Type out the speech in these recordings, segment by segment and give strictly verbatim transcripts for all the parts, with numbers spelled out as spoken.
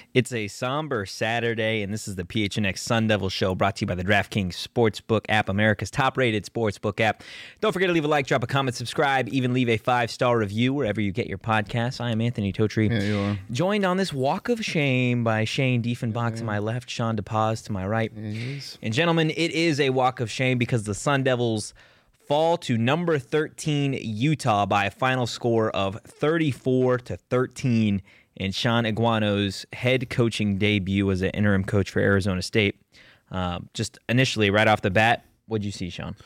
It's a somber Saturday, and this is the P H N X Sun Devil Show, brought to you by the DraftKings Sportsbook app, America's top-rated sportsbook app. Don't forget to leave a like, drop a comment, subscribe, even leave a five-star review wherever you get your podcasts. I am Anthony Totri, Yeah, you are. joined on this walk of shame by Shane Diefenbach to my left, Sean DePaz to my right. Yes. And gentlemen, it is a walk of shame because the Sun Devils fall to number thirteen Utah by a final score of thirty-four to thirteen in Sean Iguano's head coaching debut as an interim coach for Arizona State. Um, just initially, right off the bat, what'd you see, Sean?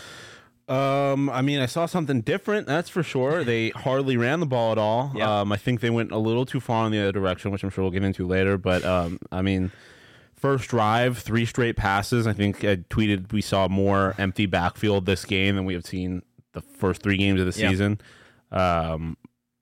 Um, I mean, I saw something different, that's for sure. They hardly ran the ball at all. Yeah. Um, I think they went a little too far in the other direction, which I'm sure we'll get into later. But, um, I mean, first drive, three straight passes. I think I tweeted we saw more empty backfield this game than we have seen the first three games of the Yeah. season. Um,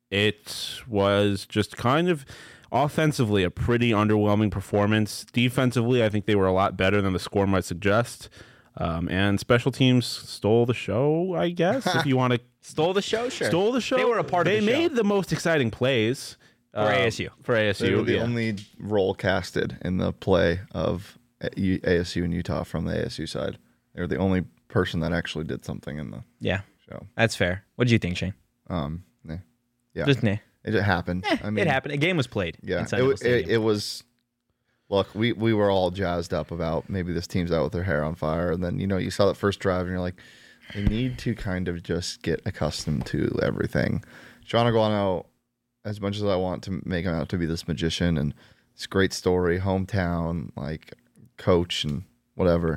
it was just kind of offensively a pretty underwhelming performance. Defensively, I think they were a lot better than the score might suggest. Um, and special teams stole the show, I guess, if you want to. Stole the show, sure. Stole the show. They were a part of They the show. made the most exciting plays. For um, A S U. For A S U, They were the yeah. only role casted in the play of A S U and Utah from the A S U side. They were the only person that actually did something in the Yeah, show. that's fair. What did you think, Shane? Um, nah. Yeah, Just nah. it just happened. I mean, it happened. A game was played. Yeah, in Sun it, Devil wa- it, Stadium. it was. Look, we, we were all jazzed up about maybe this team's out with their hair on fire, and then you know you saw that first drive, and you're like, they need to kind of just get accustomed to everything. Sean Iguano, as much as I want to make him out to be this magician and this great story, hometown, like coach and whatever,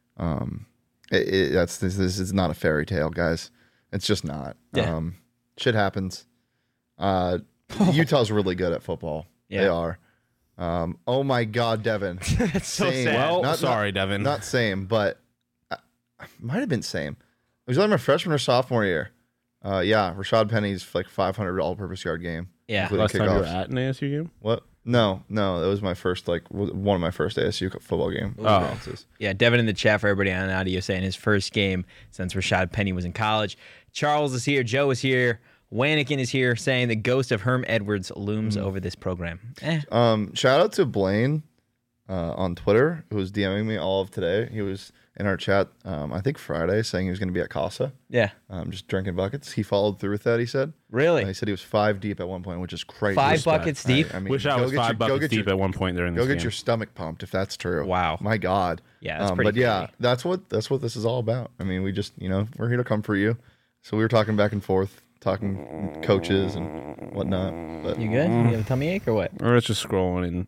um, it, it, that's this, this is not a fairy tale, guys. It's just not. Yeah. Um, shit happens. Uh, Utah's really good at football. Yeah. They are. Um, oh my God, Devin. That's so Same. sad. Well, Not- sorry, not- Devin. Not same, but uh, might have been same. Was that my freshman or sophomore year? Uh, yeah, Rashad Penny's like five hundred all-purpose yard game. Yeah. including Last time you were kickoffs. at an A S U game? What? No, no, that was my first like w- one of my first A S U football game Oh. experiences. Yeah, Devin in the chat for everybody on audio saying his first game since Rashad Penny was in college. Charles is here. Joe is here. Wannikin is here saying the ghost of Herm Edwards looms over this program. Eh. Um, shout out to Blaine uh, on Twitter who was DMing me all of today. He was in our chat, um, I think Friday, saying he was going to be at Casa, Yeah. um, just drinking buckets. He followed through with that. He said. Really? Uh, he said he was five deep at one point, which is crazy. Five Respect. buckets deep? I, I mean, Wish I go was get five your- go buckets get deep your- at one point during Go this get game. your stomach pumped if that's true. Wow. My God. Yeah, that's um, pretty But yeah, crazy. that's what that's what this is all about. I mean, we just you know we're here to come for you. So we were talking back and forth, talking coaches and whatnot. But You good? You have a tummy ache or what? Or it's just scrolling, and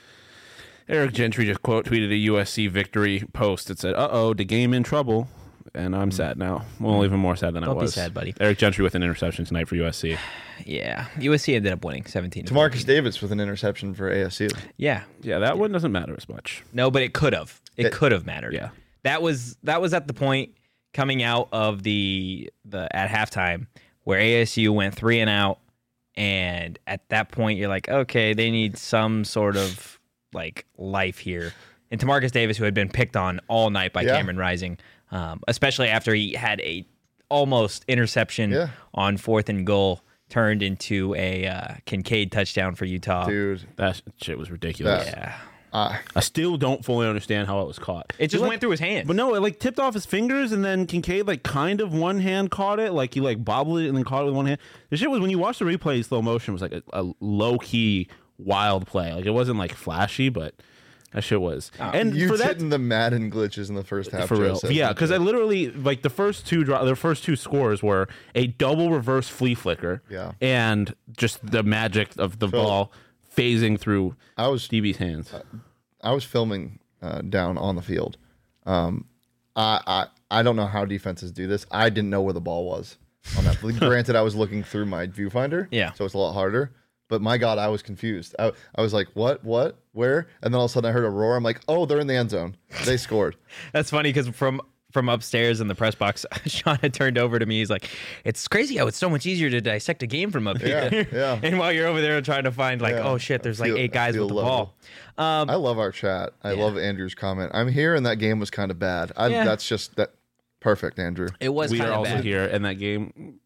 Eric Gentry just quote tweeted a U S C victory post that said, "Uh oh, the game in trouble," and I'm sad now. Well, even more sad than Don't I be was. sad, buddy. Eric Gentry with an interception tonight for U S C. Yeah. U S C ended up winning seventeen. to Tamarcus fourteen. Davis with an interception for A S U. Yeah. Yeah, that one doesn't matter as much. No, but it could have. It It- could have mattered. Yeah. That was that was at the point coming out of the the at halftime where A S U went three and out, and at that point you're like, okay, they need some sort of like life here. And Tamarcus Davis, who had been picked on all night by Yeah. Cameron Rising, um, especially after he had a almost interception Yeah. on fourth and goal, turned into a uh, Kincaid touchdown for Utah. Dude, That shit was ridiculous. That- Yeah, uh, I still don't fully understand how it was caught. it just like- went through his hands. But no, it like tipped off his fingers, and then Kincaid like kind of one hand caught it, like he like bobbled it and then caught it with one hand. The shit was when you watch the replay, slow motion it was like a, a low key wild play. Like it wasn't like flashy, but that shit was. and you for that, hitting the Madden glitches in the first half. for Joe real, said. yeah, because I literally like the first two dro- the first two scores were a double reverse flea flicker, Yeah. and just the magic of the Phil. ball phasing through I was D B's hands. I was filming uh, down on the field. Um, I, I I don't know how defenses do this. I didn't know where the ball was on that. Granted, I was looking through my viewfinder, Yeah. so it's a lot harder. But my God, I was confused. I, I was like, what, what, where? And then all of a sudden I heard a roar. I'm like, oh, they're in the end zone. They scored. That's funny because from from upstairs in the press box, Sean had turned over to me. He's like, "It's crazy how it's so much easier to dissect a game from up Yeah, here." yeah. And while you're over there trying to find like, Yeah. "Oh shit, there's I feel- like eight I guys feel with the level. ball." Um, I love our chat. I Yeah. love Andrew's comment. I'm here and that game was kind of bad. I, Yeah. That's just that perfect, Andrew. it was We kind are of also bad. here in that game.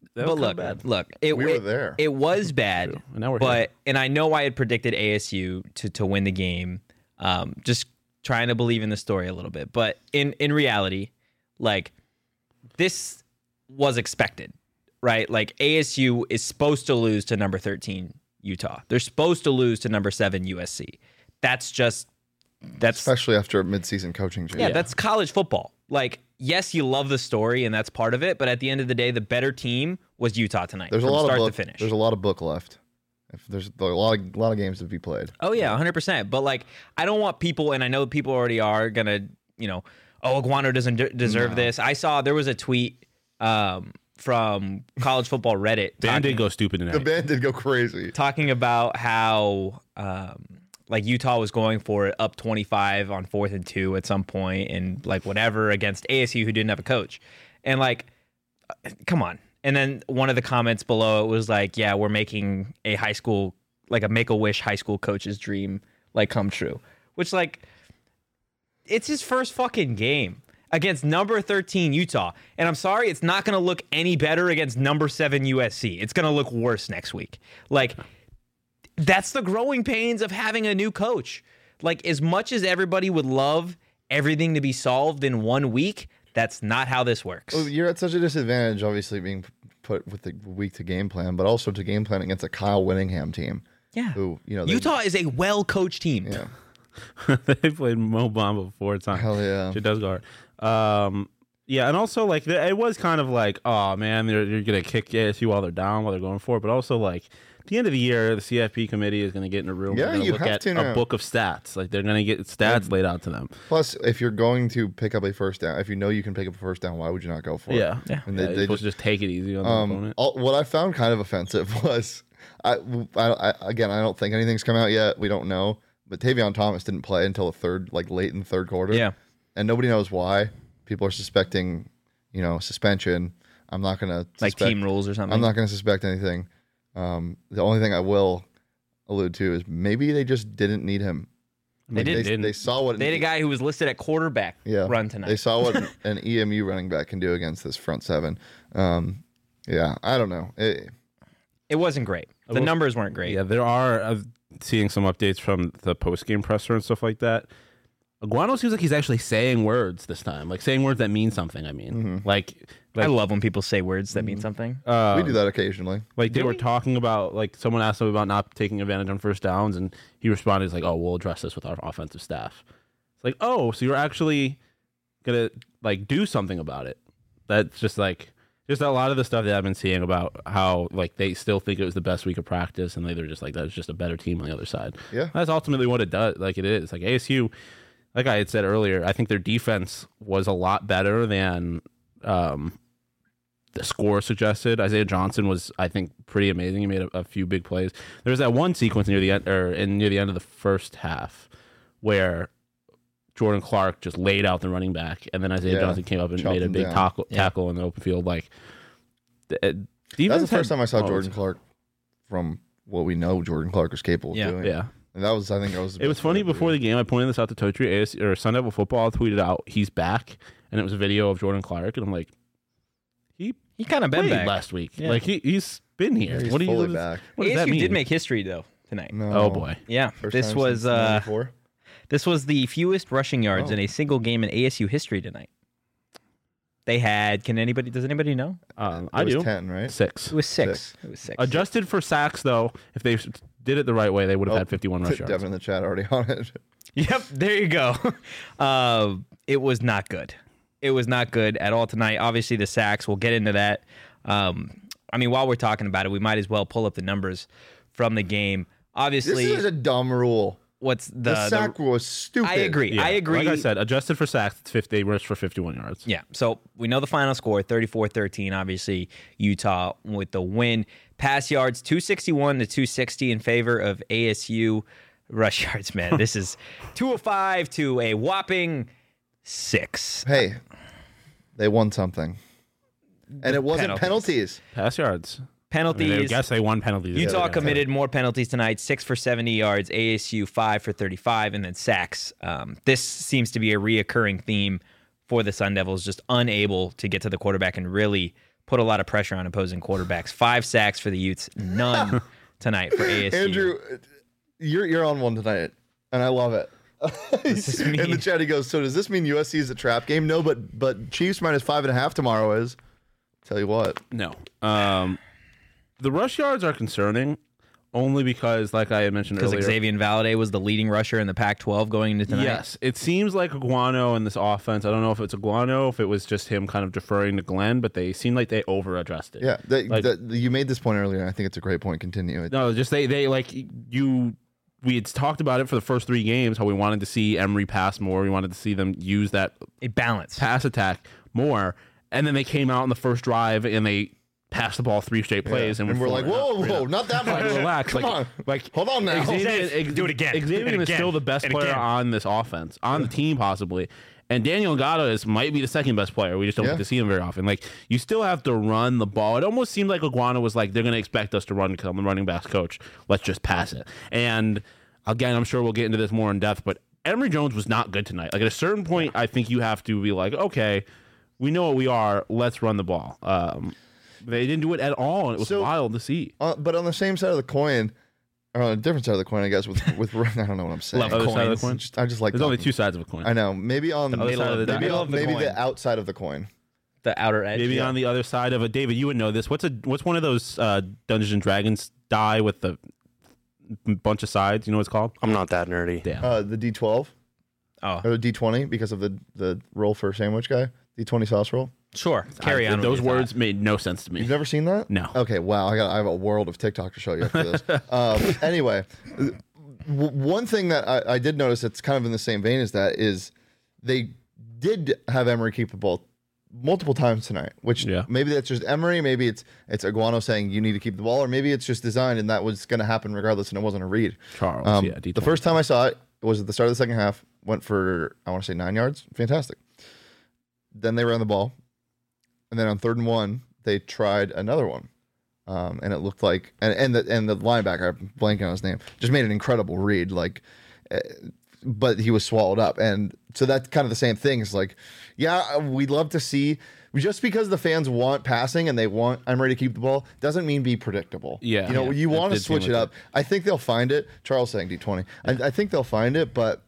that but was look, bad. look, it, We were it- there. It was bad, True. And now we're but here. and I know I had predicted A S U to to win the game. Um, just trying to believe in the story a little bit, but in in reality, like this was expected, right? Like A S U is supposed to lose to number thirteen Utah. They're supposed to lose to number seven U S C. That's just that's Especially after a midseason coaching change. yeah, that's college football. Like, yes, you love the story and that's part of it, but at the end of the day, the better team was Utah tonight. There's a from lot start of book, to finish. There's a lot of book left. If there's a lot of a lot of games to be played. Oh yeah, one hundred percent. But like, I don't want people, and I know people already are gonna, you know, oh, Iguano doesn't de- deserve No. this. I saw there was a tweet um, from College Football Reddit Dan talking, did go stupid tonight. The band did go crazy. talking about how um, like Utah was going for it up twenty-five on fourth and two at some point, and like whatever against A S U who didn't have a coach, and like, come on. And then one of the comments below it was like, yeah, we're making a high school, like a Make-A-Wish high school coach's dream, like come true. Which, like, it's his first fucking game against number thirteen Utah. And I'm sorry, it's not going to look any better against number seven U S C. It's going to look worse next week. Like, that's the growing pains of having a new coach. Like, as much as everybody would love everything to be solved in one week, that's not how this works. Well, you're at such a disadvantage, obviously, being put with the week to game plan, but also to game plan against a Kyle Winningham team. Yeah. Who, you know, they- Utah is a well-coached team. Yeah. They played Mo Bamba four times. Hell yeah. She does guard. Um, yeah, and also like th- it was kind of like, oh man, they're you're gonna kick A S U while they're down, while they're going for it. But also like at the end of the year, the C F P committee is gonna get in a room. Yeah, they're gonna you look have at to a now. book of stats. Like they're gonna get stats laid out to them. Plus, if you're going to pick up a first down, if you know you can pick up a first down, why would you not go for it? Yeah, Yeah. And yeah, they, you're they supposed just to just take it easy on the Um, opponent. all, what I found kind of offensive was, I, I, I again, I don't think anything's come out yet. We don't know, but Tavion Thomas didn't play until the third, like late in the third quarter. Yeah. and nobody knows why. People are suspecting, you know, suspension. I'm not gonna Like suspect, team rules or something. I'm not gonna suspect anything. Um, the only thing I will allude to is maybe they just didn't need him. They Like, did- They, didn't. they saw what They had a guy who was listed at quarterback yeah, run tonight. They saw what an E M U running back can do against this front seven. Um, yeah, I don't know. It, It wasn't great. The will- numbers weren't great. Yeah, there are uh, seeing some updates from the post game presser and stuff like that. Iguano seems like he's actually saying words this time, like saying words that mean something. I mean, Mm-hmm. like, I like, love when people say words that mean something. uh, we do that occasionally. Like they Do were we? talking about, like someone asked him about not taking advantage on first downs, and he responded, "He's like, oh, we'll address this with our offensive staff." It's like, oh, so you're actually gonna like do something about it. That's just like just a lot of the stuff that I've been seeing about how like they still think it was the best week of practice, and they're just like that's just a better team on the other side. Yeah. That's ultimately what it does. Like it is. Like A S U, like I had said earlier, I think their defense was a lot better than um, the score suggested. Isaiah Johnson was, I think, pretty amazing. He made a, a few big plays. There was that one sequence near the end, or in near the end of the first half, where Jordan Clark just laid out the running back, and then Isaiah Yeah, Johnson came up and chopped made a him big down. tackle, Yeah. tackle in the open field. Like, the, uh, That's defense the first had time I saw moments. Jordan Clark from what we know Jordan Clark is capable Yeah. of doing. Yeah. And that was, I think, that was. It was funny before the game. I pointed this out to Totri. A S or Sun Devil Football tweeted out he's back, and it was a video of Jordan Clark, and I'm like, he He kind of been played back. last week. Yeah. Like he he's been here. He's what do you? fully back. What does that A S U mean? did make history though tonight. No. Oh boy. Yeah, First this time was since uh, ninety-four? this was the fewest rushing yards Oh. in a single game in A S U history tonight. They had. Can anybody? Does anybody know? Um, It I was do ten, right? six. It was six. Six. It was six. Adjusted for sacks, though, if they did it the right way, they would have Oh, had fifty-one rush yards. Devin in the chat already on it. Yep, there you go. uh, it was not good. It was not good at all tonight. Obviously, the sacks. We'll get into that. Um, I mean, while we're talking about it, we might as well pull up the numbers from the game. This Obviously, is a dumb rule. what's the, The, the sack rule is stupid. I agree. Yeah, I agree. Like I said, adjusted for sacks, it's fifty. They rushed for fifty-one yards. Yeah. So we know the final score, thirty-four thirteen. Obviously, Utah with the win. Pass yards, two sixty-one to two sixty in favor of A S U. Rush yards, man. This is two oh five to a whopping six. Hey, they won something. And it wasn't Penalties. penalties. Pass yards. I, Penalties. mean, I guess they won penalties. Utah Yeah. committed more penalties tonight, six for seventy yards, A S U five for thirty-five, and then sacks. Um, this seems to be a reoccurring theme for the Sun Devils, just unable to get to the quarterback and really put a lot of pressure on opposing quarterbacks. Five sacks for the Utes, none tonight for A S U. Andrew, you're you're on one tonight, and I love it. This is In the mean. chat, he goes, "So does this mean U S C is a trap game?" No, but but Chiefs minus five and a half tomorrow is. Tell you what. No. Um, the rush yards are concerning only because, like I had mentioned Because earlier, Xavier Valade was the leading rusher in the Pac twelve going into tonight. yes, it seems like Iguano in this offense. I don't know if it's Iguano, if it was just him kind of deferring to Glenn, but they seem like they over addressed it. Yeah, they, Like- the, you made this point earlier, and I think it's a great point. Continue it. No, just they they like you. We had talked about it for the first three games how we wanted to see Emory pass more. We wanted to see them use that A balance. pass attack more, and then they came out in the first drive and they passed the ball three straight plays, Yeah. and, and we're like, four- whoa, whoa, not that much. Like, relax. Come like, on. like, Hold on now. Xavier, Says, do it again. Xavier And is again. still the best And player again. on this offense, on the team possibly. And Daniel Ngata is might be the second best player. We just don't Yeah. get to see him very often. Like, you still have to run the ball. It almost seemed like Iguana was like, they're going to expect us to run because I'm the running backs coach. Let's just pass it. And again, I'm sure we'll get into this more in depth, but Emory Jones was not good tonight. Like, at a certain point, I think you have to be like, okay, we know what we are. Let's run the ball. Um, they didn't do it at all, and it was So- wild to see. Uh, but on the same side of the coin, or on a different side of the coin, I guess, with with I don't know what I'm saying. Love Other side of coins. the coin. Just- I just like There's only talking. two sides of a coin. I know. Maybe on other side of the maybe, die. on, Love the maybe coin. the outside of the coin. The outer edge. Maybe yeah. on the other side of a David, you would know this. What's a what's one of those uh, Dungeons and Dragons die with the bunch of sides? You know what it's called? I'm not that nerdy. Damn. Uh, the D twelve Oh, or the D twenty because of the the roll for sandwich guy. D twenty sauce roll. sure. Carry I- on. with Those your words thought. made no sense to me. You've never seen that? No. Okay. Wow. I got. I have a world of TikTok to show you after this. um, anyway, w- one thing that I, I did notice that's kind of in the same vein as that is they did have Emory keep the ball multiple times tonight. Which Yeah. maybe that's just Emory. Maybe it's it's Iguano saying you need to keep the ball, or maybe it's just designed and that was going to happen regardless, and it wasn't a read. Charles, Um, yeah. D twenty. the first time I saw it was at the start of the second half. Went for I want to say nine yards. Fantastic. Then they ran the ball, and then on third and one they tried another one, um, and it looked like and and the and the linebacker, I'm blanking on his name, just made an incredible read. Like, uh, but he was swallowed up, and so that's kind of the same thing. It's like, yeah, we'd love to see. Just because the fans want passing and they want I'm ready to keep the ball doesn't mean be predictable. Yeah. you know Yeah. you It want to did seem switch it like up. I think they'll find it. Charles saying D twenty. I, I think they'll find it, but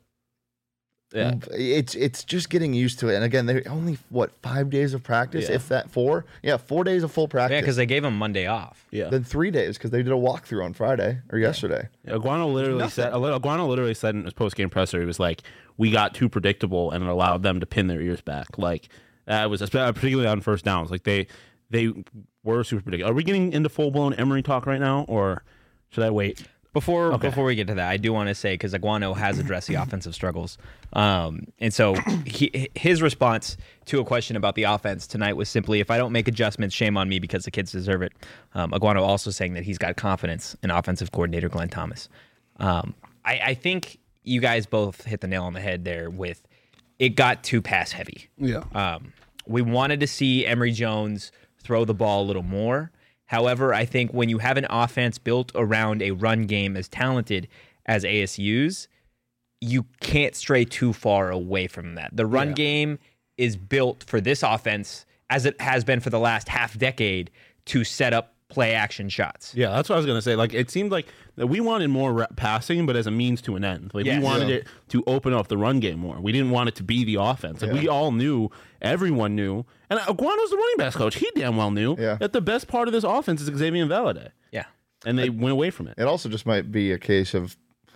Yeah. it's it's just getting used to it. And again, they're only what five days of practice, Yeah. if that four. Yeah, four days of full practice. Yeah, because they gave him Monday off. Yeah. then three days because they did a walkthrough on Friday or yesterday. Aguano literally said. Aguano literally said in his post game presser, he was like, "We got too predictable and it allowed them to pin their ears back." Like that was particularly on first downs. Like they they were super predictable. Are we getting into full blown Emory talk right now, or should I wait? Before Okay. before we get to that, I do want to say because Aguano has addressed the offensive struggles, um, and so he, his response to a question about the offense tonight was simply, "If I don't make adjustments, shame on me because the kids deserve it." Um, Aguano also saying that he's got confidence in offensive coordinator Glenn Thomas. Um, I, I think you guys both hit the nail on the head there with it got too pass heavy. Yeah. Um, we wanted to see Emory Jones throw the ball a little more. However, I think when you have an offense built around a run game as talented as A S U's, you can't stray too far away from that. The run Yeah. game is built for this offense, as it has been for the last half decade, to set up play action shots. Yeah, that's what I was gonna say. Like it seemed like that we wanted more rep passing, but as a means to an end. Like Yes. we wanted Yeah. it to open up the run game more. We didn't want it to be the offense. Like Yeah. we all knew, everyone knew, and Aguano's the running backs coach. He damn well knew Yeah. that the best part of this offense is Xavier Valade, Yeah. and they went away from it. It also just might be a case of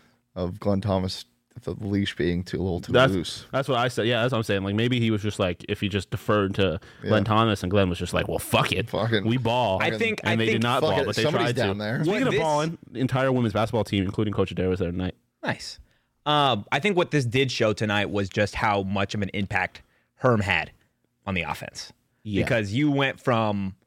of Glenn Thomas, the leash being too a little too That's loose. that's what I said. Yeah, that's what I'm saying. Like maybe he was just like if he just deferred to Glenn Yeah. Thomas, and Glenn was just like, well, fuck it, Fucking- we ball. I think and I they think did not fuck ball, it, but they somebody's tried down to. there. Speaking What of this- balling, the entire women's basketball team, including Coach Adair, was there tonight. Nice. Um, I think what this did show tonight was just how much of an impact Herm had on the offense. Yeah. Because you went from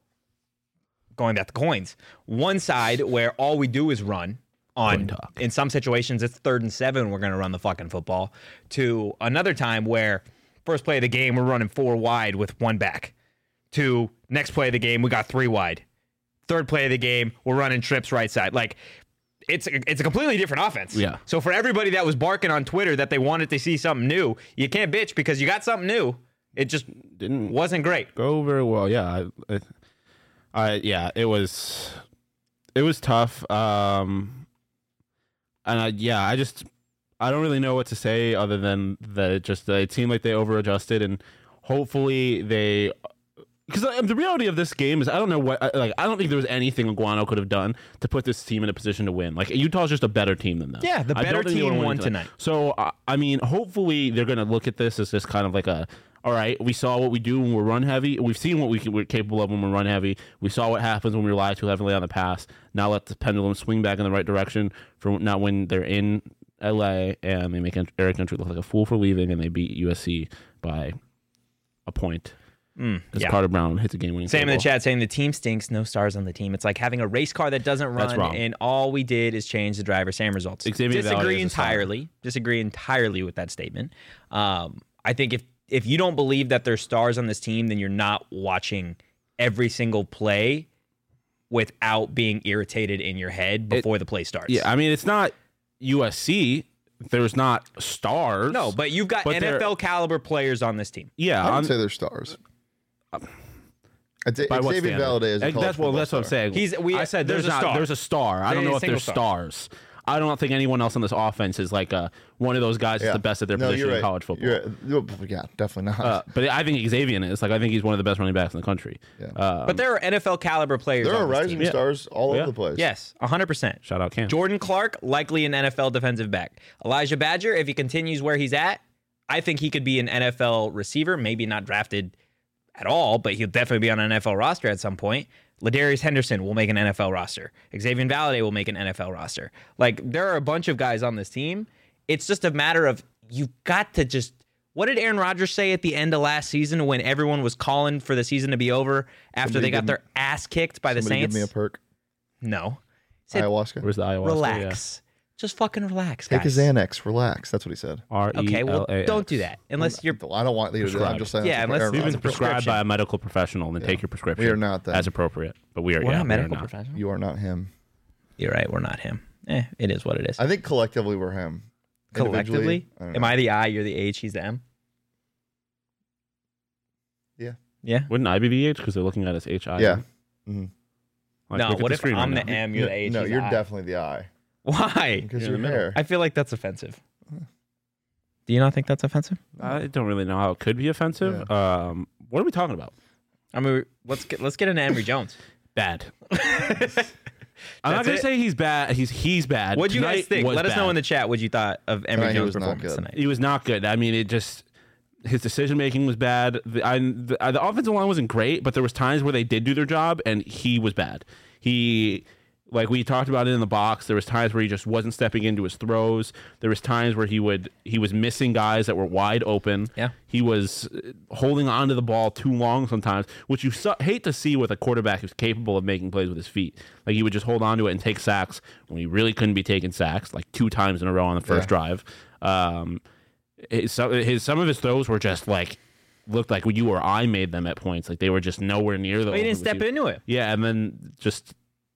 going back to coins, one side where all we do is run Coin on, talk. in some situations it's third and seven, we're going to run the fucking football, to another time where first play of the game, we're running four wide with one back, to next play of the game, we got three wide. Third play of the game, we're running trips right side. Like, it's a, it's a completely different offense. Yeah. So for everybody that was barking on Twitter that they wanted to see something new, you can't bitch because you got something new. It just Didn't wasn't great. go very well. Yeah, I, I, Uh, yeah, it was it was tough. Um, and I, yeah, I just I don't really know what to say other than that it just uh, it seemed like they over-adjusted, and hopefully they. Because the reality of this game is, I don't know what, like, I don't think there was anything Iguano could have done to put this team in a position to win. Like, Utah's just a better team than them. Yeah, the I better don't think they team were won winning tonight. So, uh, I mean, hopefully they're going to look at this as just kind of like a, all right, we saw what we do when we're run heavy. We've seen what we can, we're capable of when we're run heavy. We saw what happens when we rely too heavily on the pass. Now let the pendulum swing back in the right direction for not when they're in L A and they make Eric Gentry look like a fool for leaving, and they beat U S C by a point. Mm, As yeah. Carter Brown hits a game-winning Sam in the field goal. chat saying the team stinks, no stars on the team. It's like having a race car that doesn't That's run, wrong. and all we did is change the driver. Same results. Xavier Valade Disagree is a star. entirely. Disagree entirely with that statement. Um, I think if if you don't believe that there's stars on this team, then you're not watching every single play without being irritated in your head before the play starts. Yeah, I mean, it's not U S C. There's not stars. No, but you've got But N they're- F L caliber players on this team. Yeah, I I'm, would say they're stars. I'd say by what Xavier standard? Valade is a Eh, college that's well, football that's what I'm star. saying. He's- we- I said there's there's, a not star. there's a star. I don't There's know a if there's single star. stars. I don't think anyone else on this offense is like a one of those guys that's Yeah. the best at their No, position you're in right. college football. You're right. Yeah, definitely not. Uh, but I think Xavier is like I think he's one of the best running backs in the country. Yeah. Um, But there are N F L caliber players there are on this rising team. Yeah. stars all Yeah. over the place. Yes, one hundred percent. shout out Cam. Jordan Clark, likely an N F L defensive back. Elijah Badger, if he continues where he's at, I think he could be an N F L receiver, maybe not drafted at all, but he'll definitely be on an N F L roster at some point. Ladarius Henderson will make an N F L roster. Xavier Valade will make an N F L roster. Like, there are a bunch of guys on this team. It's just a matter of you've got to just... What did Aaron Rodgers say at the end of last season when everyone was calling for the season to be over after Somebody they got give their ass kicked by the Somebody Saints? give me a perk. No. He said, Ayahuasca. Where's the ayahuasca? relax. Just fucking relax, Take a guys. Xanax. Relax. That's what he said. R E Okay, well, L A X. don't do that unless you're... I don't want you to do that. I'm just saying. Yeah, that's what unless- Aaron We've You've been It's a Rodgers- prescribed prescription. by a medical professional, then take your prescription. We are not then. as appropriate, but we are. We're yeah, not we are medical not. professionals. You are not him. You're right. We're not him. Eh, it is what it is. I think collectively we're him. Collectively, Individually, I don't am know. I the I? You're the H. He's the M. Yeah. Yeah. Wouldn't I be the H because they're looking at us H I? Yeah. hmm Like, No. look at What the if screen I'm right the now. M? You're the H. No, he's you're the I? definitely the I Why? because You're your in the middle. hair. I feel like that's offensive. Do you not think that's offensive? I don't really know how it could be offensive. Um, what are we talking about? I mean, let's get let's get into Emory Jones. Bad. I'm not That's gonna it? say he's bad. He's he's bad. What'd you guys Tonight think? was Let us know bad. in the chat what you thought of Emory Tonight he Jones' was not performance good. tonight. He was not good. I mean, it just his decision making was bad. The, I, the, uh, the offensive line wasn't great, but there was times where they did do their job, and he was bad. He, like we talked about it in the box, there was times where he just wasn't stepping into his throws. There was times where he would he was missing guys that were wide open. Yeah. He was uh, holding onto the ball too long sometimes, which you su- hate to see with a quarterback who's capable of making plays with his feet. Like he would just hold onto it and take sacks when he really couldn't be taking sacks, like two times in a row on the first Yeah. drive. Um, his, some- his some of his throws were just like looked like you or I made them at points. Like they were just nowhere near the. But he didn't open step receiver. into it. Yeah, and then just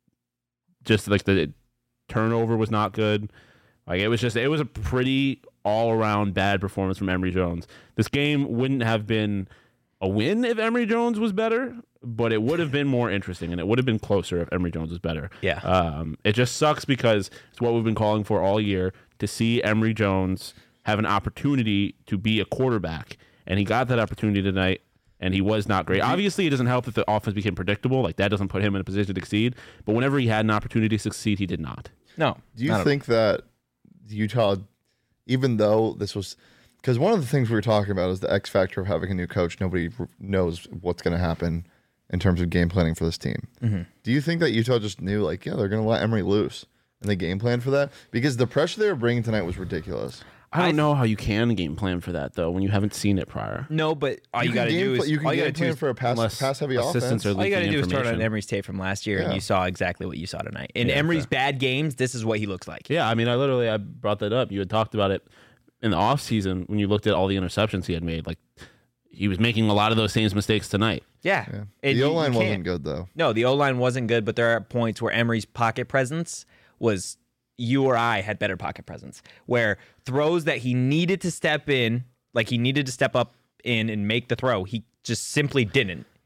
just like the turnover was not good. Like it was just it was a pretty all around bad performance from Emory Jones. This game wouldn't have been a win if Emory Jones was better, but it would have been more interesting and it would have been closer if Emory Jones was better. Yeah. Um, it just sucks because it's what we've been calling for all year to see Emory Jones have an opportunity to be a quarterback, and he got that opportunity tonight. And he was not great. Obviously, it doesn't help that the offense became predictable. Like that doesn't put him in a position to succeed. But whenever he had an opportunity to succeed, he did not. No. Do you not a- think that Utah, even though this was, because one of the things we were talking about is the X factor of having a new coach. Nobody r- knows what's going to happen in terms of game planning for this team. Mhm. Do you think that Utah just knew, like, yeah, they're going to let Emory loose, and they game planned for that? Because the pressure they were bringing tonight was ridiculous. I don't I- know how you can game plan for that though when you haven't seen it prior. No, but all you, can got to game do pl- is you can all you game got to do plan is for a pass unless pass heavy assistants offense. are all you got to leaking do is turn on information. Emory's tape from last year, and Yeah. you saw exactly what you saw tonight. In Yeah, Emory's fair. bad games, this is what he looks like. Yeah, I mean, I literally I brought that up. You had talked about it in the offseason when you looked at all the interceptions he had made. Like he was making a lot of those same mistakes tonight. Yeah. Yeah. And The you- O line you wasn't can't- good though. No, the O line wasn't good, but there are points where Emory's pocket presence was you or I had better pocket presence. Where throws that he needed to step in, like he needed to step up in and make the throw, he just simply didn't.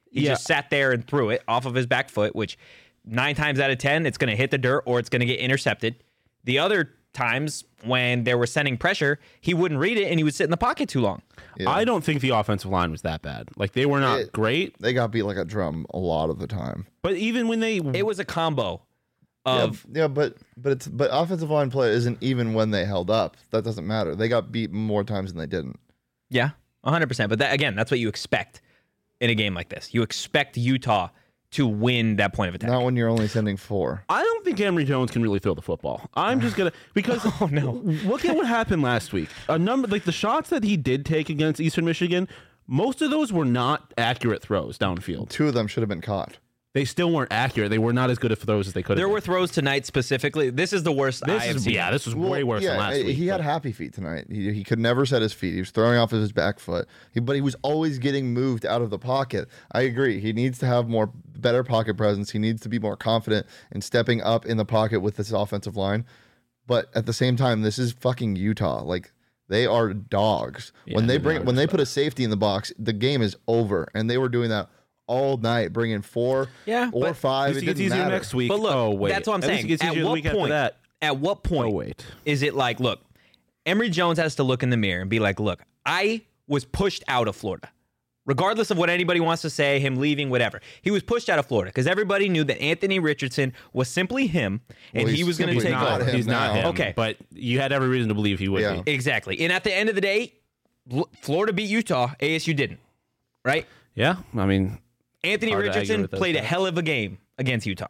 He Yeah. just sat there and threw it off of his back foot, which nine times out of ten, it's going to hit the dirt or it's going to get intercepted. The other times when they were sending pressure, he wouldn't read it and he would sit in the pocket too long. Yeah. I don't think the offensive line was that bad. Like, they were not It- great, They got beat like a drum a lot of the time. but even when they It was a combo Yeah, of yeah, but but it's but offensive line play isn't even when they held up. That doesn't matter. They got beat more times than they didn't. yeah, one hundred percent. But that, again, that's what you expect in a game like this. You expect Utah to win that point of attack. Not when you're only sending four. I don't think Emory Jones can really throw the football. I'm just gonna because Oh, no. look at what happened last week. A number like the shots that he did take against Eastern Michigan, most of those were not accurate throws downfield. Two of them should have been caught. They still weren't accurate. They were not as good of throws as they could have. There been. were throws tonight specifically. This is the worst This I have is, seen. yeah, this was way Well, worse yeah, than last eh, week. He had but- happy feet tonight. He, he could never set his feet. He was throwing off of his back foot. He, but he was always getting moved out of the pocket. I agree. He needs to have more better pocket presence. He needs to be more confident in stepping up in the pocket with this offensive line. But at the same time, this is fucking Utah. Like, they are dogs. Yeah, when they they bring are when they just put a safety in the box, the game is over. And they were doing that all night, bringing four Yeah, or but- At five. least It it gets didn't easier matter. next week. But look, oh wait, that's what I'm At least saying. It gets At easier the what week after point? that. At what point? Oh wait. Is it like, look, Emory Jones has to look in the mirror and be like, look, I was pushed out of Florida. Regardless of what anybody wants to say, him leaving, whatever. He was pushed out of Florida because everybody knew that Anthony Richardson was simply him and Well, he he's was going to simply take not over. him He's not now. him. Okay. but you had every reason to believe he would Yeah. be. Exactly. And at the end of the day, L- Florida beat Utah. A S U didn't. Right? Yeah, I mean, Anthony Hard to argue Richardson with those played a guys. hell of a game against Utah.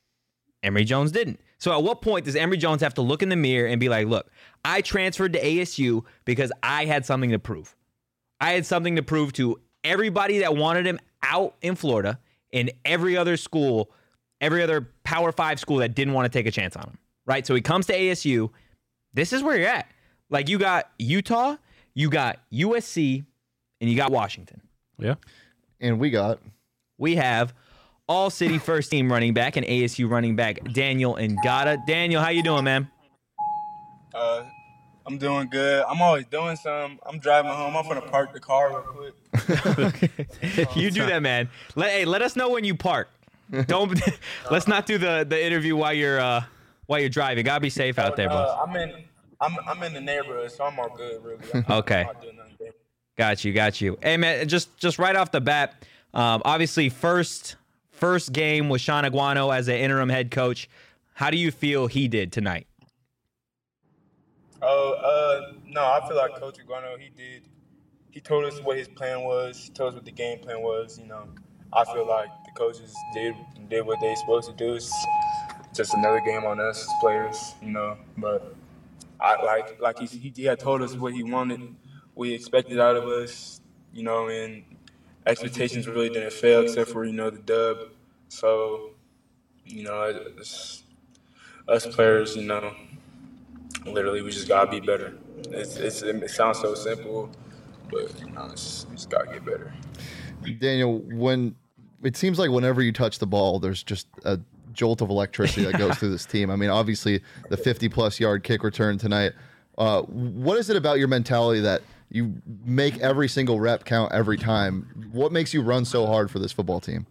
Emory Jones didn't. So at what point does Emory Jones have to look in the mirror and be like, look, I transferred to A S U because I had something to prove. I had something to prove to everybody that wanted him out in Florida and every other school, every other Power Five school that didn't want to take a chance on him. Right? So he comes to A S U. This is where you're at. Like, you got Utah, you got U S C, and you got Washington. yeah. And we got We have all city first team running back and A S U running back Daniel Ngata. Daniel, how you doing, man? Uh, I'm doing good. I'm always doing something. I'm driving home. I'm gonna park the car real quick. You do that, man. Let hey, let us know when you park. Don't let's not do the, the interview while you're uh while you're driving. Gotta be safe out there, Uh, boss. I'm in. I'm I'm in the neighborhood, so I'm all good, really. I'm, Okay. I'm not doing nothing big. Got you, got you. Hey, man, just just right off the bat, um, obviously first first game with Sean Aguano as an interim head coach. How do you feel he did tonight? Oh, uh, no, I feel like Coach Iguano, he did. He told us what his plan was. He told us what the game plan was. You know, I feel like the coaches did did what they supposed to do. It's just another game on us as players, you know. But I like like he he, he had told us what he wanted, what he expected out of us, you know, and expectations really didn't fail except for you know the dub. So, you know, it's, us players, you know. Literally, we just gotta be better. It's, it's, it sounds so simple, but you know, it's, we just gotta get better. Daniel, when it seems like whenever you touch the ball, there's just a jolt of electricity that goes through this team. I mean, obviously the fifty plus yard kick return tonight. Uh, what is it about your mentality that you make every single rep count every time? What makes you run so hard for this football team?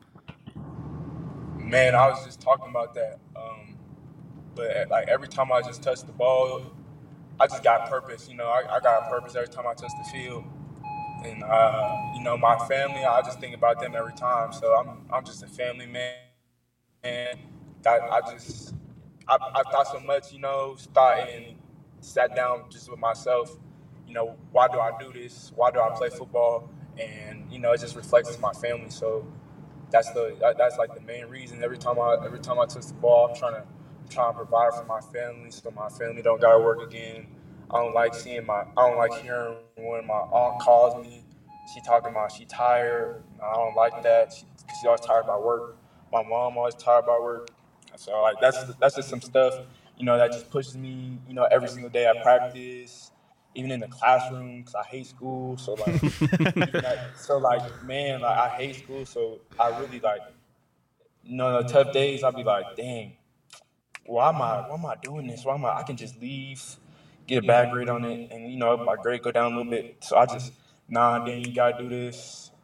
Man, I was just talking about that. Um, but like every time I just touch the ball, I just got purpose. You know, I, I got a purpose every time I touch the field. And uh, you know, my family, I just think about them every time. So I'm I'm just a family man. And that I just I, I thought so much, you know, thought and sat down just with myself. You know, why do I do this? Why do I play football? And you know, it just reflects to my family. So that's the that, that's like the main reason. Every time I every time I touch the ball, I'm trying to I'm trying to provide for my family, so my family don't gotta work again. I don't like seeing my I don't like hearing when my aunt calls me. She talking about she tired. I don't like that. She, she's always tired about work. My mom always tired about work. So like that's that's just some stuff, you know, that just pushes me, you know, every single day at practice, even in the classroom, because I hate school. So like, even that, so like, man, like I hate school. So I really like, you know, the tough days, I'll be like, dang, why am I, why am I doing this? Why am I? I can just leave, get a bad grade on it, and you know, my grade go down a little bit. So I just, nah, Dan, you gotta do this.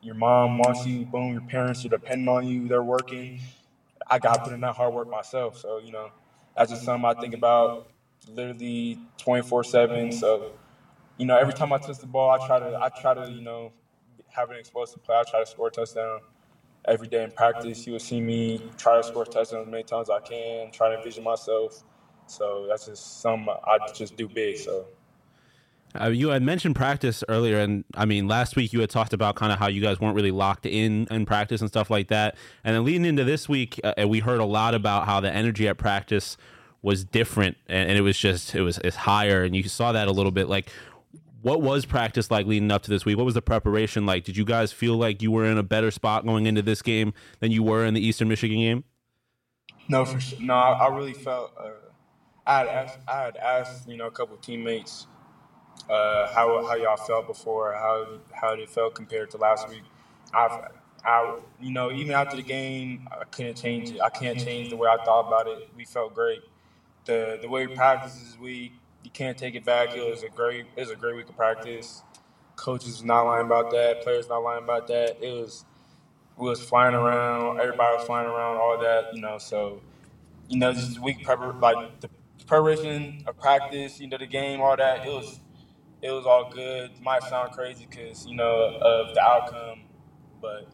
your mom wants you, boom, your parents are depending on you, they're working. I got to put in that hard work myself. So, you know, that's just something I think about literally twenty-four seven. So, you know, every time I touch the ball, I try to, I try to, you know, have an explosive play. I try to score a touchdown every day in practice. You will see me try to score touchdowns as many times as I can, try to envision myself. So that's just something I just do big. So. Uh, you had mentioned practice earlier, and I mean, last week you had talked about kind of how you guys weren't really locked in in practice and stuff like that. And then leading into this week, uh, we heard a lot about how the energy at practice was different, and, and it was just it was it's higher, and you saw that a little bit. Like, what was practice like leading up to this week? What was the preparation like? Did you guys feel like you were in a better spot going into this game than you were in the Eastern Michigan game? No, for sure. No, I, I really felt. Uh, I had asked, I had asked, you know, a couple of teammates. Uh, how how y'all felt before, how how it felt compared to last week. I've, I, you know, even after the game, I couldn't change it. I can't change the way I thought about it. We felt great. The the way we practiced this week, you can't take it back. It was a great it was a great week of practice. Coaches was not lying about that. Players not lying about that. It was we was flying around. Everybody was flying around. All that, you know. So, you know, this week prepar like the preparation of practice, you know, the game, all that. It was. It was all good. It might sound crazy because, you know, of the outcome. But,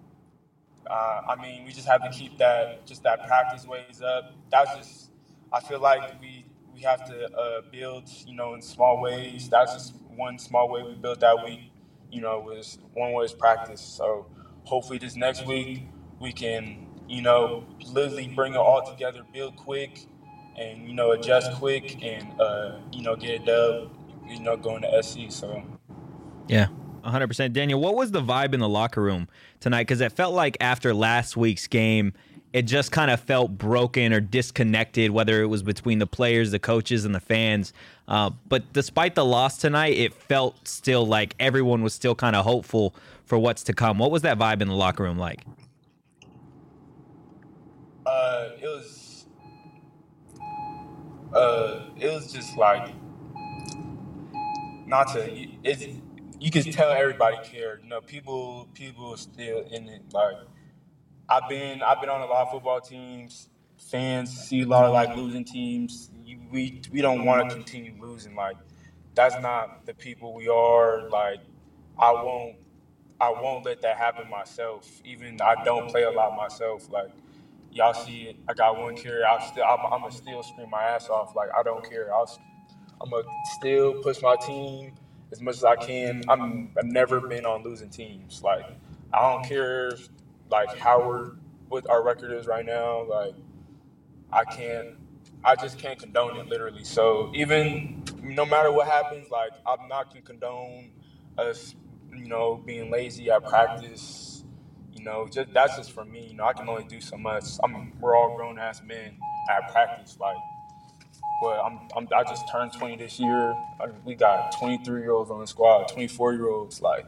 uh, I mean, we just have to keep that, just that practice ways up. That's just, I feel like we we have to uh, build, you know, in small ways. That's just one small way we built that week, you know, was one way is practice. So hopefully this next week we can, you know, literally bring it all together, build quick and, you know, adjust quick and, uh, you know, get it done. You know, going to S C, so. Yeah, one hundred percent. Daniel, what was the vibe in the locker room tonight? Because it felt like after last week's game, it just kind of felt broken or disconnected, whether it was between the players, the coaches, and the fans. Uh, but despite the loss tonight, it felt still like everyone was still kind of hopeful for what's to come. What was that vibe in the locker room like? Uh, it was, uh, it was just like, not to, it's, you can tell everybody cared. You know, people, people are still in it. Like, I've been, I've been on a lot of football teams. Fans see a lot of like losing teams. You, we, we don't want to continue losing. Like, that's not the people we are. Like, I won't, I won't let that happen myself. Even I don't play a lot myself. Like, y'all see it. I got one carry. I'll still, I'm, I'm gonna still scream my ass off. Like, I don't care. I'll. I'm going to still push my team as much as I can. I'm, I've never been on losing teams. Like, I don't care, like, how we're, what our record is right now. Like, I can't, I just can't condone it, literally. So, even, no matter what happens, like, I'm not going to condone us, you know, being lazy at practice. You know, just that's just for me. You know, I can only do so much. I'm, we're all grown-ass men at practice, like. But I'm, I'm, I just turned twenty this year. I, we got twenty-three-year-olds on the squad, twenty-four-year-olds. Like,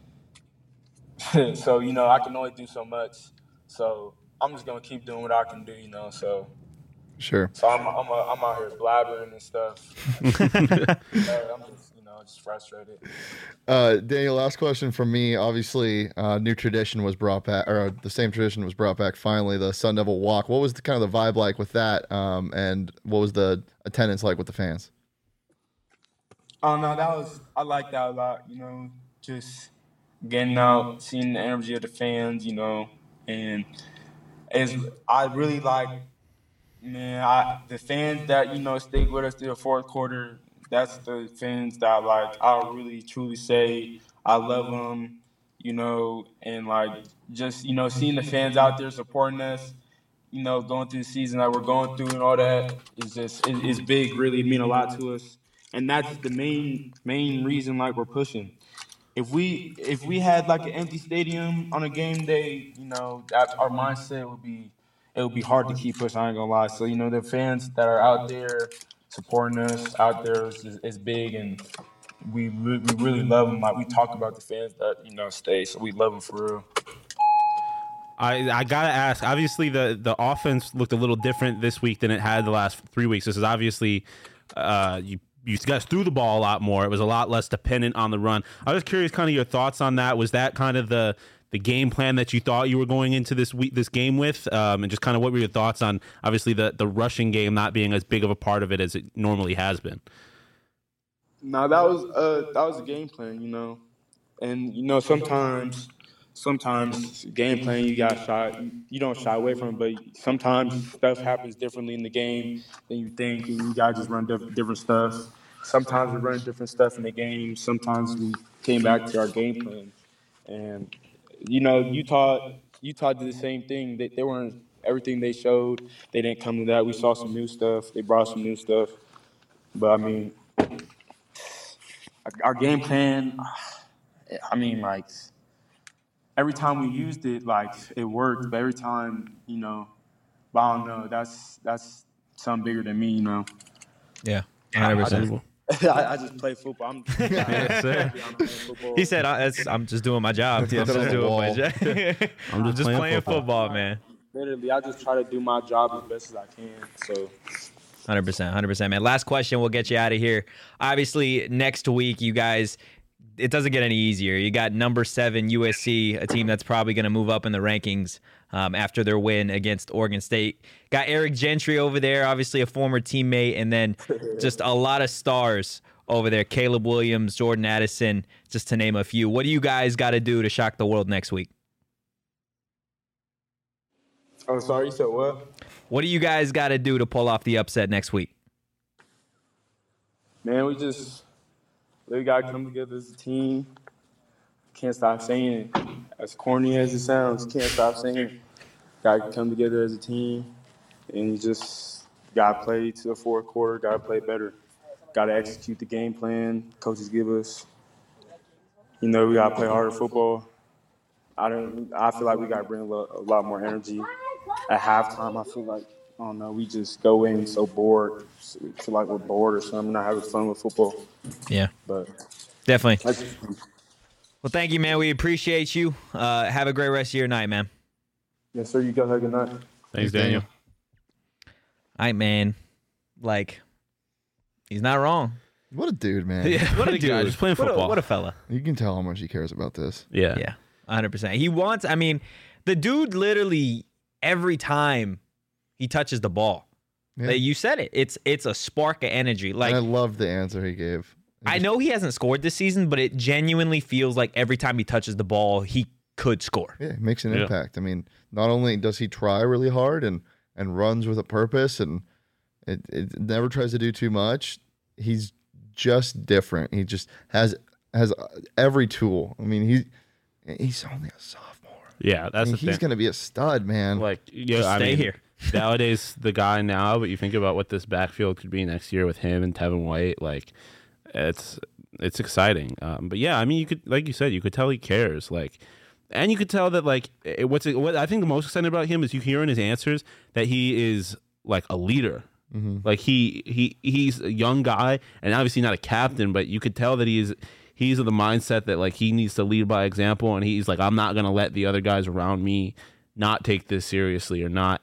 so, you know, I can only do so much. So I'm just going to keep doing what I can do, you know. So, sure. So I'm, I'm, a, I'm out here blabbering and stuff. uh, I'm just, you know, just frustrated. Uh, Daniel, last question from me. Obviously, uh, new tradition was brought back, or the same tradition was brought back finally, the Sun Devil Walk. What was the kind of the vibe like with that? Um, and what was the attendance like with the fans? Oh, no, that was, I like that a lot, you know, just getting out, seeing the energy of the fans, you know, and it's, I really like, man, I, the fans that, you know, stayed with us through the fourth quarter, that's the fans that, like, I'll really truly say I love them, you know, and, like, just, you know, seeing the fans out there supporting us, you know, going through the season that we're going through and all that is just, it, it's big, really mean a lot to us. And that's the main, main reason, like, we're pushing. If we, if we had, like, an empty stadium on a game day, you know, that our mindset would be, it would be hard to keep pushing, I ain't gonna lie. So, you know, the fans that are out there supporting us out there is, is big, and we we really love them. Like, we talk about the fans that, you know, stay, so we love them for real. I, I gotta ask. Obviously, the the offense looked a little different this week than it had the last three weeks. This is obviously uh, you you guys threw the ball a lot more. It was a lot less dependent on the run. I was curious, kind of your thoughts on that. Was that kind of the the game plan that you thought you were going into this week, this game with, um, and just kind of what were your thoughts on obviously the the rushing game not being as big of a part of it as it normally has been? No, that was uh that was a game plan, you know, and you know sometimes sometimes game plan you got shot you don't shy away from it, but sometimes stuff happens differently in the game than you think, and you gotta just run diff- different stuff. Sometimes we run different stuff in the game. Sometimes we came back to our game plan, and you know Utah Utah did the same thing. They, they weren't everything they showed. They didn't come to that. We saw some new stuff. They brought some new stuff, but I mean. Our game plan, I mean, like, every time we used it, like, it worked. But every time, you know, but I don't know. That's that's something bigger than me, you know. Yeah, one hundred percent. I, I just play football. I'm, Yes, sir. I'm playing football. He said, I, it's, I'm just doing my job. I'm just, on the doing my wall. job. I'm just, playing playing football. football, man. Literally, I just try to do my job as best as I can. So, one hundred percent, one hundred percent, man. Last question, we'll get you out of here. Obviously, next week, you guys, it doesn't get any easier. You got number seven U S C, a team that's probably going to move up in the rankings um, after their win against Oregon State. Got Eric Gentry over there, obviously a former teammate, and then just a lot of stars over there. Caleb Williams, Jordan Addison, just to name a few. What do you guys got to do to shock the world next week? I'm sorry, you said what? What do you guys got to do to pull off the upset next week? Man, we just we gotta come together as a team. Can't stop saying it. As corny as it sounds, can't stop saying it. Gotta come together as a team, and you just gotta play to the fourth quarter. Gotta play better. Gotta execute the game plan coaches give us. You know, we gotta play harder football. I don't. I feel like we gotta bring a lot, a lot more energy. At halftime, I feel like, I don't know, we just go in so bored. So we feel like we're bored or something, not having fun with football. Yeah, But definitely. that's, Well, thank you, man. We appreciate you. Uh, have a great rest of your night, man. yes, sir. You guys have a good night. Thanks, Daniel. All right, man. Like, he's not wrong. What a dude, man. What a What a guy, dude. just playing What a, football. what a fella. You can tell how much he cares about this. Yeah. Yeah, one hundred percent. He wants, I mean, the dude literally, every time he touches the ball, Yeah. like, you said it. It's it's a spark of energy. Like, and I love the answer he gave. It I just- know he hasn't scored this season, but it genuinely feels like every time he touches the ball, he could score. Yeah, it makes an Yeah. impact. I mean, not only does he try really hard and, and runs with a purpose, and it, it never tries to do too much, he's just different. He just has has every tool. I mean, he he's only a sophomore. Yeah, I that's mean, the he's thing. going to be a stud, man. Like, yeah, Just I stay mean, here. Dalladay's the guy now, but you think about what this backfield could be next year with him and Tevin White. Like, it's it's exciting. Um, but yeah, I mean, you could, like you said, you could tell he cares. Like, and you could tell that, like, it, what's it, what I think the most exciting about him is you hear in his answers that he is like a leader. Mm-hmm. Like he he he's a young guy and obviously not a captain, but you could tell that he's he's of the mindset that like he needs to lead by example, and he's like, I'm not gonna let the other guys around me not take this seriously or not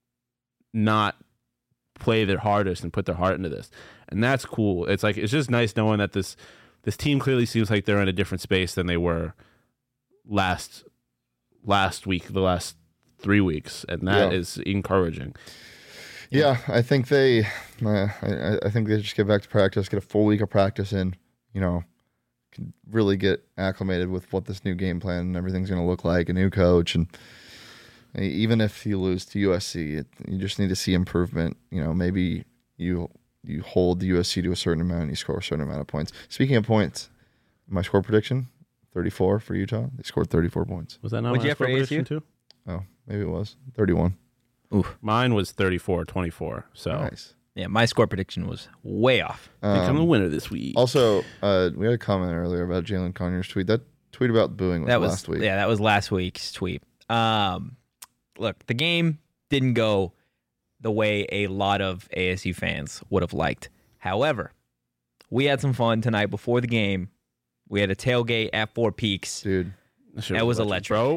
not play their hardest and put their heart into this. And that's cool. It's like it's just nice knowing that this this team clearly seems like they're in a different space than they were last last week, the last three weeks, and that Yeah. is encouraging. Yeah, I think they, uh, I, I think they just get back to practice, get a full week of practice in, you know, can really get acclimated with what this new game plan and everything's going to look like, a new coach, and even if you lose to U S C, it, you just need to see improvement. You know, maybe you you hold the U S C to a certain amount and you score a certain amount of points. Speaking of points, my score prediction, thirty-four for Utah. They scored thirty-four points. Was that not What'd my you have for score A S U? prediction too? Oh, maybe it was thirty-one. Oof. Mine was thirty-four twenty-four. So Nice. Yeah, my score prediction was way off. become the Um, winner this week. Also, uh, we had a comment earlier about Jalen Conyers' tweet. That tweet about booing was, That was last week. yeah, that was last week's tweet. Um, look, the game didn't go the way a lot of A S U fans would have liked. However, we had some fun tonight before the game. We had a tailgate at Four Peaks. Dude, shit that was electric. bro.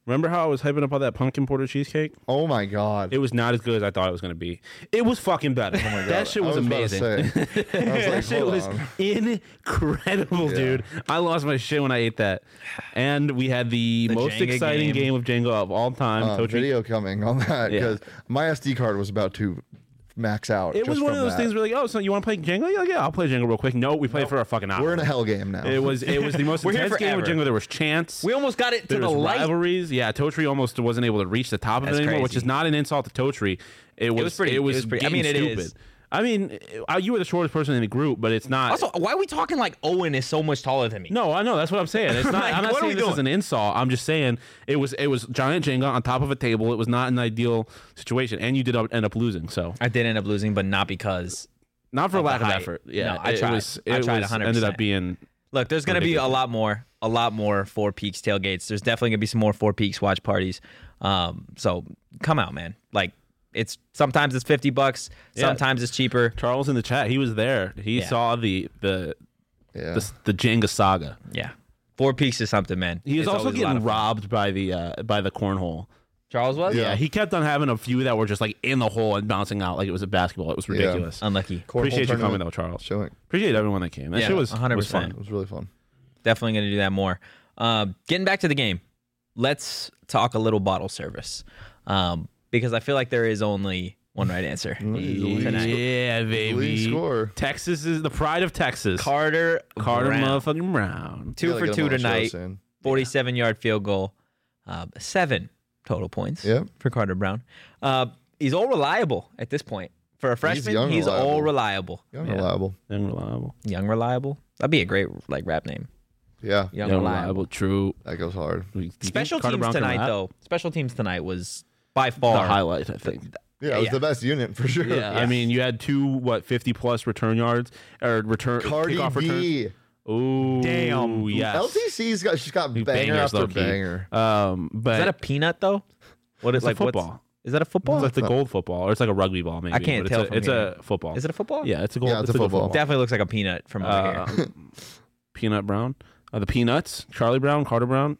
Remember how I was hyping up all that pumpkin porter cheesecake? Oh my god. It was not as good as I thought it was going to be. It was fucking better. Oh my god. That shit was, I was amazing. About to say, I was like, That shit hold was on. incredible, Yeah. dude. I lost my shit when I ate that. And we had the, The most Jenga exciting game. game of Jenga of all time. Uh, Totri- video coming on that Yeah. because my S D card was about to max out. It just was one of from those that. things where like, oh, so you want to play Jenga? You're like, yeah, I'll play Jenga real quick. No, we played for a fucking hour. We're in a hell game now. It was it was the most We're here intense game of forever. Jenga. There was chance. We almost got it to There the was light. rivalries. Yeah, Totri almost wasn't able to reach the top of That's it anymore, which crazy. is not an insult to Totri. It was, was pretty- It was, it was pretty- I getting mean, it stupid. is. I mean, uh, you were the shortest person in the group, but it's not. Also, why are we talking like Owen is so much taller than me? no, I know that's what I'm saying. It's not. Like, I'm not what are saying we this doing? is an insult. I'm just saying it was. It was giant Jenga on top of a table. It was not an ideal situation, and you did end up losing. So I did end up losing, but not because. not for Of the lack of height. effort. Yeah, No, I it tried. was. I It tried was, one hundred ended percent. up being. Look, there's going to be a Ridiculous. lot more, a lot more Four Peaks tailgates. There's definitely going to be some more Four Peaks watch parties. Um, so come out, man. Like it's sometimes it's fifty bucks, Yeah. sometimes it's cheaper. Charles in the chat. He was there. He Yeah. saw the the, yeah. the the Jenga saga. Yeah, Four Peaks is something, man. He was It's also always a lot getting of fun. robbed by the uh, by the cornhole. Charles was Yeah, he kept on having a few that were just like in the hole and bouncing out like it was a basketball. It was ridiculous. unlucky. Cornhole Appreciate you coming tournament though, Charles. Showing. Appreciate everyone that came. That Yeah, shit was one hundred was percent. fun. It was really fun. Definitely going to do that more. Um, getting back to the game, let's talk a little bottle service um, because I feel like there is only one right answer. tonight. Yeah, Lead baby. score. Texas is the pride of Texas. Carter Carter Brown. motherfucking Brown. two Gotta for get him two on the show tonight. soon. forty-seven yard field goal, uh, seven total points Yep. for Carter Brown. Uh, he's all reliable at this point. For a freshman, young he's, reliable. all reliable. Young Yeah. reliable. Unreliable. Young reliable. That'd be a great like rap name. Yeah. Young, Unreliable. reliable. True. That goes hard. Do you think Special Carter teams Brown can tonight, rap? though. Special teams tonight was by The far highlight, I think. Yeah, it was yeah. the best unit for sure. Yeah, I mean, you had two what fifty plus return yards or return Cardi kickoff returns. B. Ooh, Damn. yes. L T C's got she's got banger Bangers, after low-key. banger. Um, but Is that a peanut though? What is It's a like what's- football. Is that a football? it's like the gold football, or it's like a rugby ball, maybe. I can't but tell It's, from a, it's here. a football. Is it a football? Yeah, it's a gold. Yeah, it's a good football. Definitely looks like a peanut from over Uh, here. Peanut Brown, uh, the Peanuts, Charlie Brown, Carter Brown,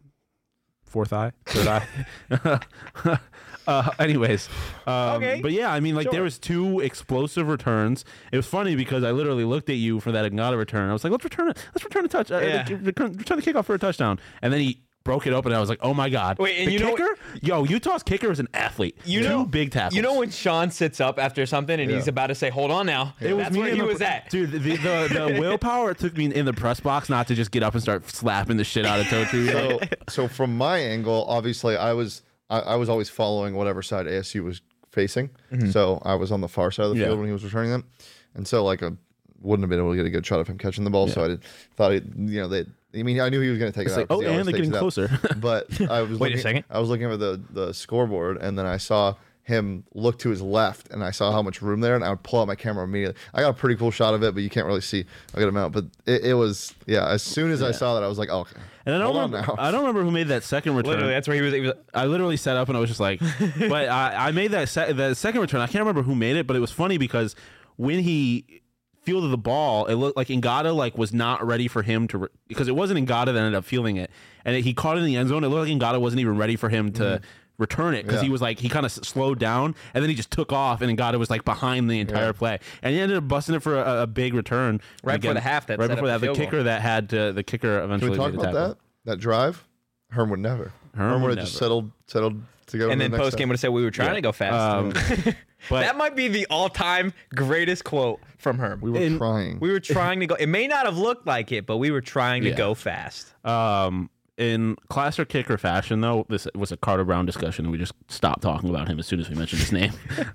fourth eye, third eye. uh, anyways, um, Okay. but yeah, I mean, like Sure. there was two explosive returns. It was funny because I literally looked at you for that Ignata return. I was like, let's return it. Let's return a touch. Uh, Yeah. return, return the kickoff for a touchdown, and then he broke it open. And I was like, oh my god. Wait, and the you know- kicker? Yo, Utah's kicker is an athlete. You two know- big tackles. You know when Sean sits up after something and Yeah. he's about to say, "Hold on now." It was That's me where in he the- was at. Dude, the, the, the willpower it took me in the press box not to just get up and start slapping the shit out of Totri. So, so from my angle, obviously, I was I, I was always following whatever side A S U was facing. So I was on the far side of the Yeah. field when he was returning them, and so like I wouldn't have been able to get a good shot of him catching the ball. So I did, thought it, you know, they. I mean, I knew he was going to take It's it like, out. 'cause oh, he and always they're takes getting it out. closer. But I was Wait a looking, second. I was looking at the the scoreboard, and then I saw him look to his left, and I saw how much room there, and I would pull out my camera immediately. I got a pretty cool shot of it, but you can't really see a good amount. But it, it was, yeah. As soon as I saw that, I was like, oh, okay. And I don't Hold on remember. now. I don't remember who made that second return. Literally, that's where he was. He was I literally sat up and I was just like, but I, I made that se- the second return. I can't remember who made it, but it was funny because when he fielded the ball, it looked like Ngata like was not ready for him to re- because it wasn't Ngata that ended up fielding it, and he caught it in the end zone. It looked like Ngata wasn't even ready for him to. Return it because Yeah. he was like he kind of slowed down and then he just took off and Ngata was like behind the entire Yeah. play and he ended up busting it for a, a big return Right And before the half that right set before up that the the field kicker goal. that had to, the kicker Can eventually we talk made the about tackle. that? That drive, Herm would never. Herm Herm would would have just never. settled settled to go. and to then the next post game would have said we were trying Yeah. to go fast. Um, but that might be the all-time greatest quote from Herm. We were in- trying. We were trying to go. It may not have looked like it, but we were trying to Yeah. go fast. Um, in classic kicker fashion, though, this was a Carter Brown discussion, and we just stopped talking about him as soon as we mentioned his name.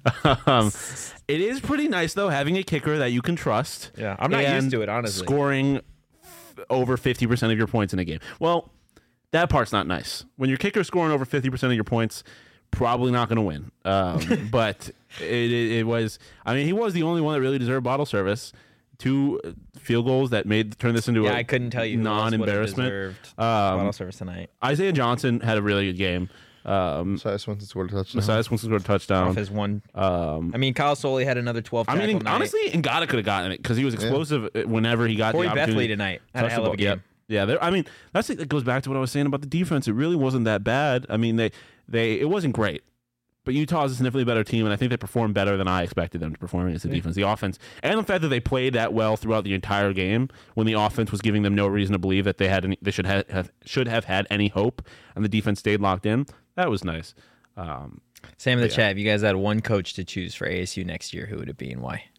um, it is pretty nice, though, having a kicker that you can trust. Yeah, I'm not used and to it, honestly. Scoring f- over fifty percent of your points in a game. Well, that part's not nice. When your kicker's scoring over fifty percent of your points, probably not going to win. Um, but it, it, it was, I mean, he was the only one that really deserved bottle service. Two field goals that made turn this into Yeah, a I couldn't tell you who else would have non-embarrassment. deserved Um, bottle service tonight. Isaiah Johnson had a really good game. Um, Messiah Swinson scored a touchdown. Messiah Swinson scored a touchdown. Off his one. Um, I mean, Kyle Soley had another twelve. I tackle mean, night. honestly, Ngata could have gotten it because he was explosive whenever he got Corey the opportunity. Bethley tonight had a Touched hell the of a ball. game. Yeah, they're- I mean, that's it goes back to what I was saying about the defense. It really wasn't that bad. I mean, they they it wasn't great, but Utah is a significantly better team, and I think they performed better than I expected them to perform against the Yeah. defense. The offense, and the fact that they played that well throughout the entire game, when the offense was giving them no reason to believe that they had any, they should have, have should have had any hope, and the defense stayed locked in. That was nice. Um, Same in the Yeah. chat. If you guys had one coach to choose for A S U next year, who would it be and why?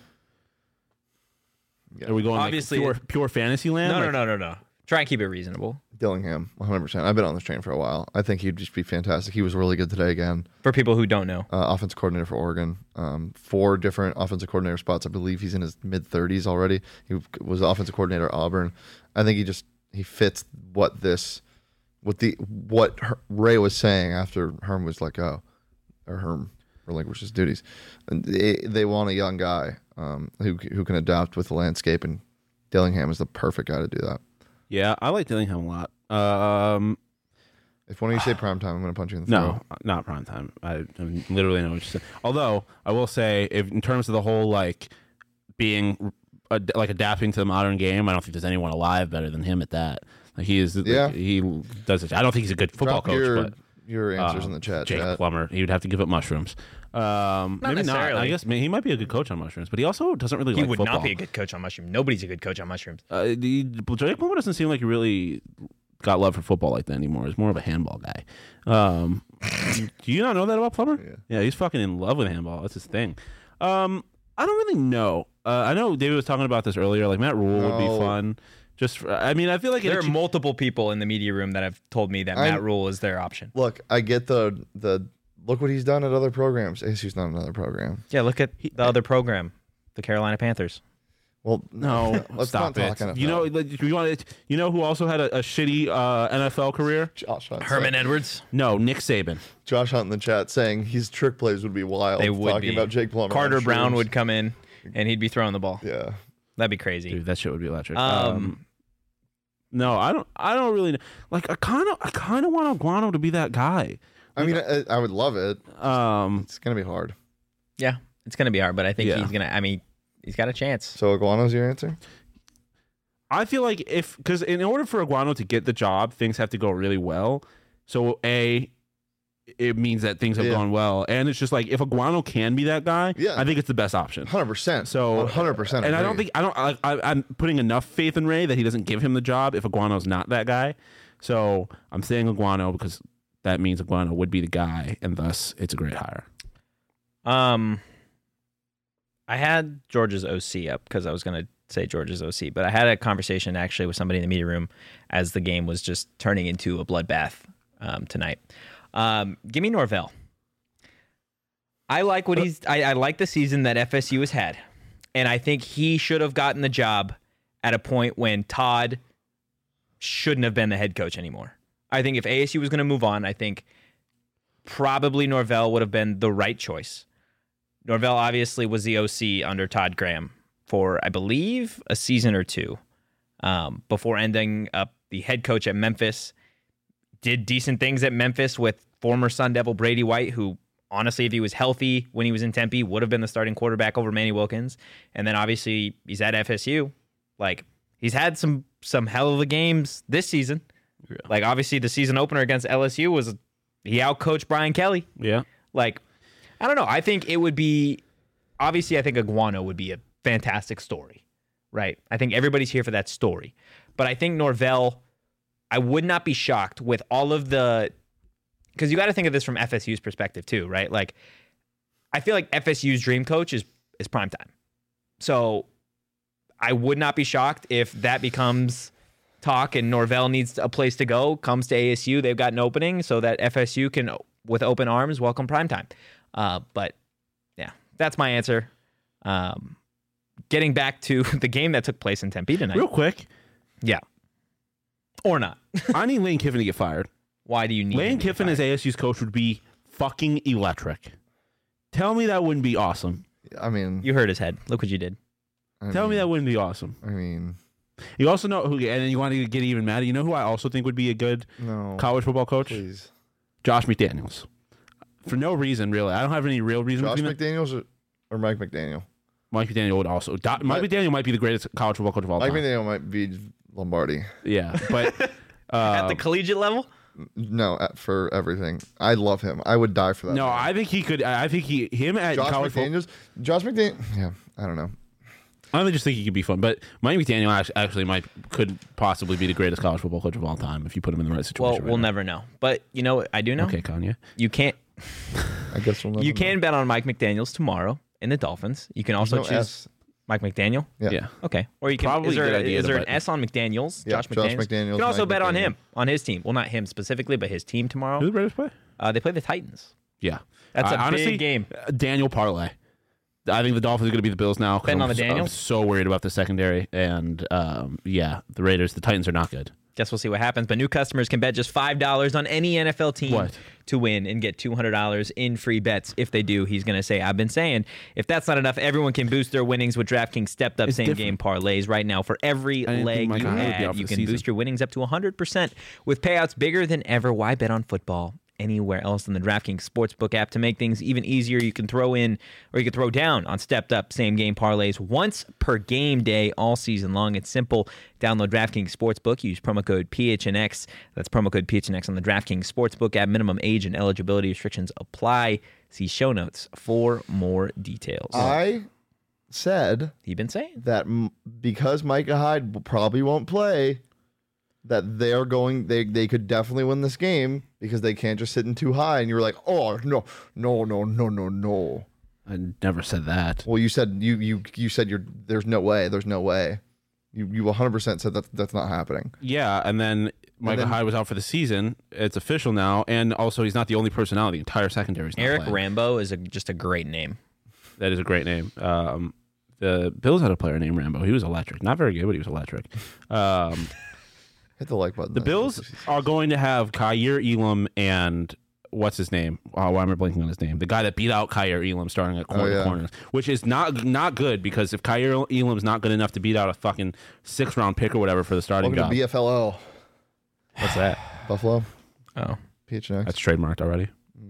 Yeah. Are we going Obviously- like pure, pure fantasy land? No, Like, no, no, no, no. Try and keep it reasonable Dillingham, one hundred percent. I've been on this train for a while. I think he'd just be fantastic. He was really good today again. for people who don't know. Uh, offensive coordinator for Oregon. Um, four different offensive coordinator spots. I believe he's in his mid thirties already. He was offensive coordinator at Auburn. I think he just he fits what this, what the what Her- Ray was saying after Herm was let go, or Herm relinquished his duties. And they they want a young guy um, who who can adapt with the landscape, and Dillingham is the perfect guy to do that. Yeah, I like Dillingham a lot. Um, If one of you say prime time, I'm going to punch you in the no, throat. not prime time. I, I literally know what you're saying. Although I will say, if in terms of the whole like being ad- like adapting to the modern game, I don't think there's anyone alive better than him at that. Like he is. Yeah. he does it. I don't think he's a good football Drop coach, your but your answers uh, in the chat. Jake chat. Plummer, he would have to give up mushrooms. Um, Not maybe not. I necessarily. guess I mean, he might be a good coach on mushrooms, but he also doesn't really He like would football. not be a good coach on mushrooms. Nobody's a good coach on mushrooms. Uh, the, Jake Plummer doesn't seem like he really got love for football like that anymore. He's more of a handball guy. Um, do you not know that about Plummer? Yeah. Yeah, he's fucking in love with handball. That's his thing. Um, I don't really know. Uh, I know David was talking about this earlier. Like Matt Rule would be No. fun. Just, for, I mean, I feel like There are it, multiple people in the media room that have told me that I'm- Matt Rule is their option. Look, I get the the look what he's done at other programs. A S U's not another program. Yeah, look at the other program, the Carolina Panthers. Well, no, let's stop not it. talk N F L. You know, like, you want you know who also had a, a shitty uh, N F L career? Josh Hunt. Herman saying- Edwards. No, Nick Saban. Josh Hunt in the chat saying his trick plays would be wild. They would talking be. about Jake Plummer. Carter on Brown shrooms. would come in, and he'd be throwing the ball. Yeah. That'd be crazy. Dude, that shit would be electric. Um, Um, no, I don't. I don't really know. Like, I kind of, I kind of want Aguano to be that guy. I mean, I, I would love it. Um, It's gonna be hard. Yeah, it's gonna be hard, but I think Yeah. he's gonna. I mean, he's got a chance. So Iguano's your answer? I feel like if because in order for Aguano to get the job, things have to go really well. So a, it means that things have Yeah. gone well, and it's just like if Aguano can be that guy, Yeah. I think it's the best option. Hundred percent. So hundred percent. And I don't think I don't. I, I, I'm putting enough faith in Ray that he doesn't give him the job if Aguano's not that guy. So I'm saying Aguano because that means Aguano would be the guy, and thus it's a great hire. Um, I had Georgia's O C up because I was gonna say Georgia's O C, but I had a conversation actually with somebody in the media room as the game was just turning into a bloodbath um, tonight. Um, give me Norvell. I like what he's. I, I like the season that F S U has had, and I think he should have gotten the job at a point when Todd shouldn't have been the head coach anymore. I think if A S U was going to move on, I think probably Norvell would have been the right choice. Norvell obviously was the O C under Todd Graham for, I believe, a season or two um, before ending up the head coach at Memphis. Did decent things at Memphis with former Sun Devil Brady White, who honestly, if he was healthy when he was in Tempe, would have been the starting quarterback over Manny Wilkins. And then obviously he's at F S U. Like, he's had some some hell of a games this season. Yeah. Like, obviously the season opener against L S U was he outcoached Brian Kelly. Yeah. Like, I don't know. I think it would be, obviously, I think Aguano would be a fantastic story, right? I think everybody's here for that story. But I think Norvell, I would not be shocked with all of the, because you got to think of this from F S U's perspective too, right? Like, I feel like F S U's dream coach is is primetime. So I would not be shocked if that becomes talk and Norvell needs a place to go, comes to A S U, they've got an opening so that F S U can, with open arms, welcome primetime. Uh, but yeah, that's my answer. Um, getting back to the game that took place in Tempe tonight. Real quick, Yeah. Or not. I need Lane Kiffin to get fired. Why do you need Lane him to get Kiffin as fired? A S U's coach would be fucking electric. Tell me that wouldn't be awesome. I mean, You hurt his head. Look what you did. I Tell me mean- that wouldn't be awesome. I mean, You also know who, and then you want to get even mad. You know who I also think would be a good no. college football coach? Please. Josh McDaniels. For no reason, really. I don't have any real reason. Josh between them. McDaniels or, or Mike McDaniel? Mike McDaniel would also. Do, Mike Mike- McDaniel might be the greatest college football coach of all Mike time. McDaniel might be Lombardi. Yeah, but At uh, the collegiate level? No, at- for everything. I love him. I would die for that. no, man. I think he could. I think he him at Josh college football. McDaniels. Josh McDaniel. Yeah, I don't know. I don't just think he could be fun, but Mike McDaniel act- actually might could possibly be the greatest college football coach of all time if you put him in the right situation. Well, right we'll now. never know. But you know what I do know? Okay, Kanye. You can't I guess we'll never you know. can bet on Mike McDaniels tomorrow in the Dolphins. You can also No choose S. Mike McDaniel. Yeah. Yeah. Okay. Or you can Probably is a there, good idea is to there an bet. S on McDaniels? Yeah, Josh Josh McDaniels. McDaniels, You can also Mike bet on McDaniel. him, on his team. Well, not him specifically, but his team tomorrow. Who the Raiders play? Uh, they play the Titans. Yeah, That's a a big game. Daniel parlay. I think the Dolphins are going to be the Bills now. 'cause Betting I'm on the so- I'm Daniels? so worried about the secondary, and um, yeah, the Raiders, the Titans are not good. Guess we'll see what happens. But new customers can bet just five dollars on any N F L team What? to win and get two hundred dollars in free bets. If they do, he's going to say, I've been saying. If that's not enough, everyone can boost their winnings with DraftKings stepped up It's same game different. parlays right now. For every I didn't think leg Mike you Hyde would be out add, for you the can season. boost your winnings up to one hundred percent with payouts bigger than ever. Why bet on football anywhere else than the DraftKings Sportsbook app? To make things even easier, you can throw in or you can throw down on stepped up same game parlays once per game day all season long. It's simple. Download DraftKings Sportsbook. Use promo code P H N X. That's promo code P H N X on the DraftKings Sportsbook app. Minimum age and eligibility restrictions apply. See show notes for more details. I said You've been saying. that m- because Micah Hyde probably won't play, that they're going. They they could definitely win this game because they can't just sit in too high. And you were like, oh no, no, no, no, no, no. I never said that. Well, you said you you you said you're. There's no way. There's no way. You you one hundred percent said that that's not happening. Yeah, and then Micah then- Hyde was out for the season. It's official now, and also he's not the only personality. The entire secondary is not Eric playing. Rambo is a, just a great name. That is a great name. Um, the Bills had a player named Rambo. He was electric. Not very good, but he was electric. Um, Hit the like button. the Bills are going to have Kyer Elam and what's his name? Oh, why am I blanking on his name? The guy that beat out Kyer Elam starting at corner Oh, yeah. corners, which is not not good because if Kyer Elam's not good enough to beat out a fucking six round pick or whatever for the starting Welcome job, to B F L O. What's that? Buffalo. Oh. P H N X. that's trademarked already.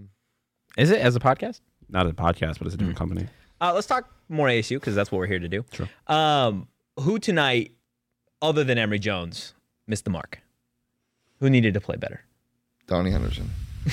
Is it as a podcast? Not a podcast, but it's a different company. Uh, let's talk more A S U because that's what we're here to do. Sure. Um, who tonight, other than Emory Jones, missed the mark? Who needed to play better? Donnie Henderson.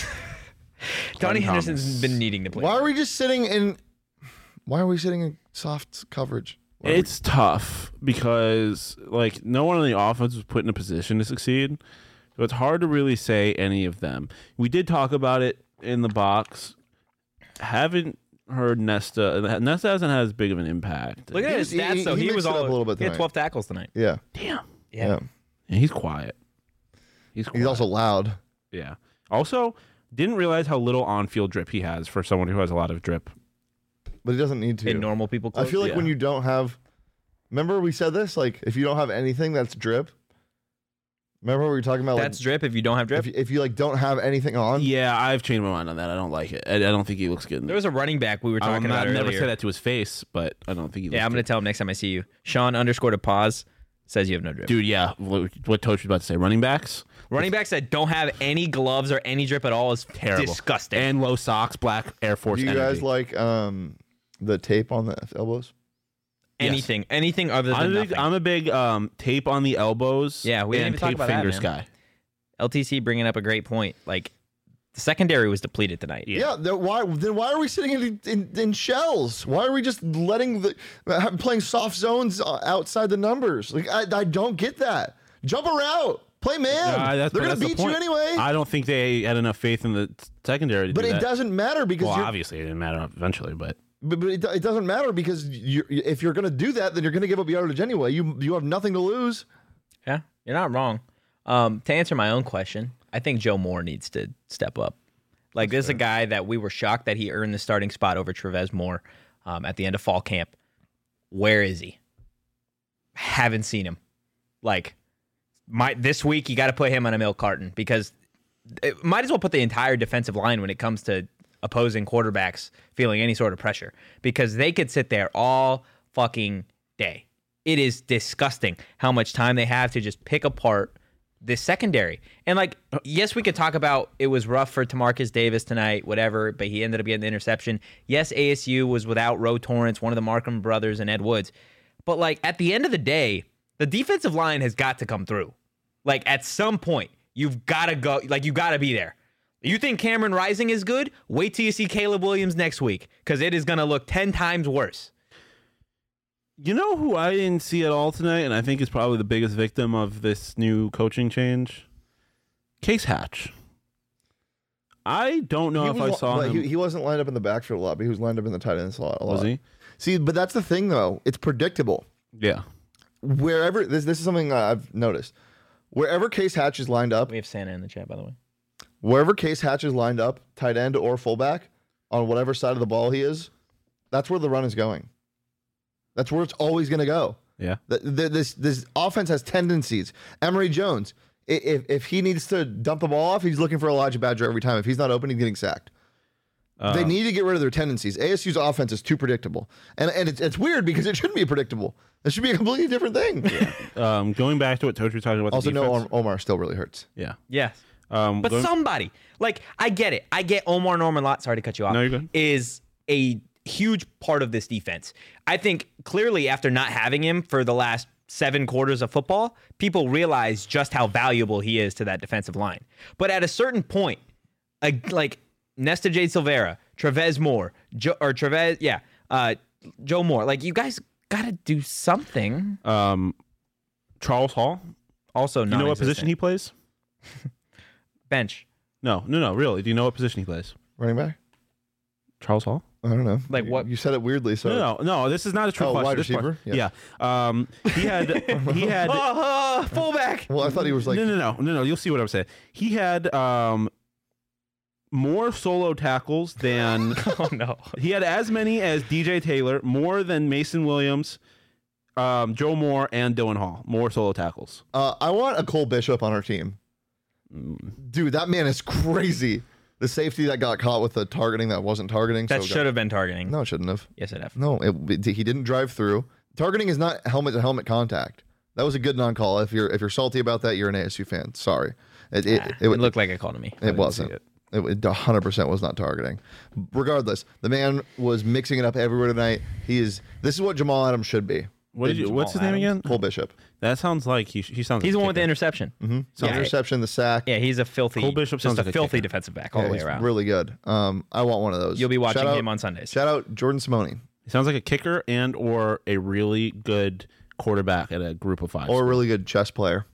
Donnie Glenn Henderson's Thomas. been needing to play. Why are we just sitting in? Why are we sitting in soft coverage? Why are we- It's tough because like no one on the offense was put in a position to succeed. So it's hard to really say any of them. We did talk about it in the box. Haven't heard Nesta. Nesta hasn't had as big of an impact. Look at his He- stats, he- though. he He, mixed was it up all a little bit He had tonight. twelve tackles tonight. yeah. Damn. Yeah. And he's quiet. He's quiet. He's also loud. yeah. Also, didn't realize how little on-field drip he has for someone who has a lot of drip. But he doesn't need to. In normal people I clothes. feel like yeah. when you don't have, remember we said this, like if you don't have anything that's drip. Remember we were talking about that's like drip if you don't have drip. if, you- if you like don't have anything on. Yeah, I've changed my mind on that. I don't like it. I, I don't think he looks good. in There was a running back we were talking I'm about not, earlier. never say that to his face, but I don't think he. Looks Yeah, I'm good. gonna tell him next time I see you. Sean underscored a pause says you have no drip. Dude, yeah. What, what Toach was about to say, running backs, Running backs that don't have any gloves or any drip at all is terrible, disgusting. and low socks, black Air Force. Do you energy. guys like um the tape on the elbows? anything, anything other than I'm a big, nothing. I'm a big um, tape on the elbows. Yeah, we didn't and even talk tape about that, fingers man. guy. L T C bringing up a great point. Like the secondary was depleted tonight. Yeah. Yeah. then why then why are we sitting in, in in shells? Why are we just letting the uh, playing soft zones uh, outside the numbers? Like I, I don't get that. Jump around, play man. Uh, that's- They're gonna that's the beat you point. anyway. I don't think they had enough faith in the secondary to but do it that. doesn't matter because Well, you're, obviously it didn't matter eventually, but but, but it, do- it doesn't matter because you if you're gonna do that, then you're gonna give up yardage anyway. You you have nothing to lose. Yeah, you're not wrong. Um, to answer my own question, I think Joe Moore needs to step up. Like this is a guy that we were shocked that he earned the starting spot over Trevez Moore um, at the end of fall camp. Where is he? Haven't seen him. Like my this week, you got to put him on a milk carton because it might as well put the entire defensive line when it comes to opposing quarterbacks feeling any sort of pressure because they could sit there all fucking day. It is disgusting how much time they have to just pick apart this secondary. And, like, yes, we could talk about it was rough for Tamarcus Davis tonight, whatever, but he ended up getting the interception. Yes, A S U was without Ro Torrance, one of the Markham brothers, and Ed Woods. But, like, at the end of the day, the defensive line has got to come through. Like, at some point, you've got to go. Like, you got to be there. You think Cameron Rising is good? Wait till you see Caleb Williams next week, because it is going to look ten times worse. You know who I didn't see at all tonight, and I think is probably the biggest victim of this new coaching change? Case Hatch. I don't know He if was I li- saw but him. He, he wasn't lined up in the backfield a lot, but he was lined up in the tight end slot a lot. Was he? See, but that's the thing, though. It's predictable. Yeah. Wherever this this is something I've noticed. Wherever Case Hatch is lined up, We have Santa in the chat, by the way. wherever Case Hatch is lined up, tight end or fullback, on whatever side of the ball he is, that's where the run is going. That's where it's always going to go. Yeah. The, the, this this offense has tendencies. Emory Jones, i- if if he needs to dump the ball off, he's looking for Elijah Badger every time. If he's not open, he's getting sacked. Uh, They need to get rid of their tendencies. A S U's offense is too predictable, and and it's, it's weird because it shouldn't be predictable. It should be a completely different thing. um, going back to what Toach was talking about. Also, the no, defense. Omar, Omar still really hurts. Yeah. Yes. Um, But going- somebody, like, I get it. I get Omar Norman Lott, sorry to cut you off, No, you're good. is a huge part of this defense. I think clearly after not having him for the last seven quarters of football, people realize just how valuable he is to that defensive line. But at a certain point, a, like Nesta J. Silvera, Trevez Moore, jo- or Trevez, yeah, uh, Joe Moore, like, you guys got to do something. um, Charles Hall. Also, Do you know what position he non-existent. plays? Bench. No, no, no. Really? Do you know what position he plays? Running back? Charles Hall. I don't know. Like You- what- You said it weirdly. So No, no, no. This is not a trick Oh, question. wide This part- receiver? Yeah. Um, he had. He had. Oh, fullback. Well, I thought he was like no, no, no, no, no. You'll see what I'm saying. He had um, more solo tackles than Oh, no. he had as many as D J Taylor, more than Mason Williams, um, Joe Moore, and Dylan Hall. More solo tackles. Uh, I want a Cole Bishop on our team. Dude, that man is crazy. The safety that got caught with the targeting that wasn't targeting. That so should have been targeting. No, it shouldn't have. Yes, it have. No, it, it- he didn't drive through. Targeting is not helmet to helmet contact. That was a good non-call. If you're if you're salty about that, you're an A S U fan. Sorry, it it, Ah, it, it it, looked like a call to me. it wasn't. it. It, it one hundred percent was not targeting. Regardless, the man was mixing it up everywhere tonight. He is. This is what Jamal Adams should be. What did you? Jamal What's his name Adams? again? Cole Bishop. That sounds like he. He sounds. He's the like one with the kicker. interception. Mm-hmm. So Yeah. interception, the sack. Yeah, he's a filthy. Cole Bishop just sounds a like a filthy kicker. defensive back all Yeah, the way he's around. really good. Um, I want one of those. You'll be watching Shout out- him on Sundays. Shout out Jordan Simone He sounds like a kicker and or a really good quarterback at a group of five. or a really good chess player.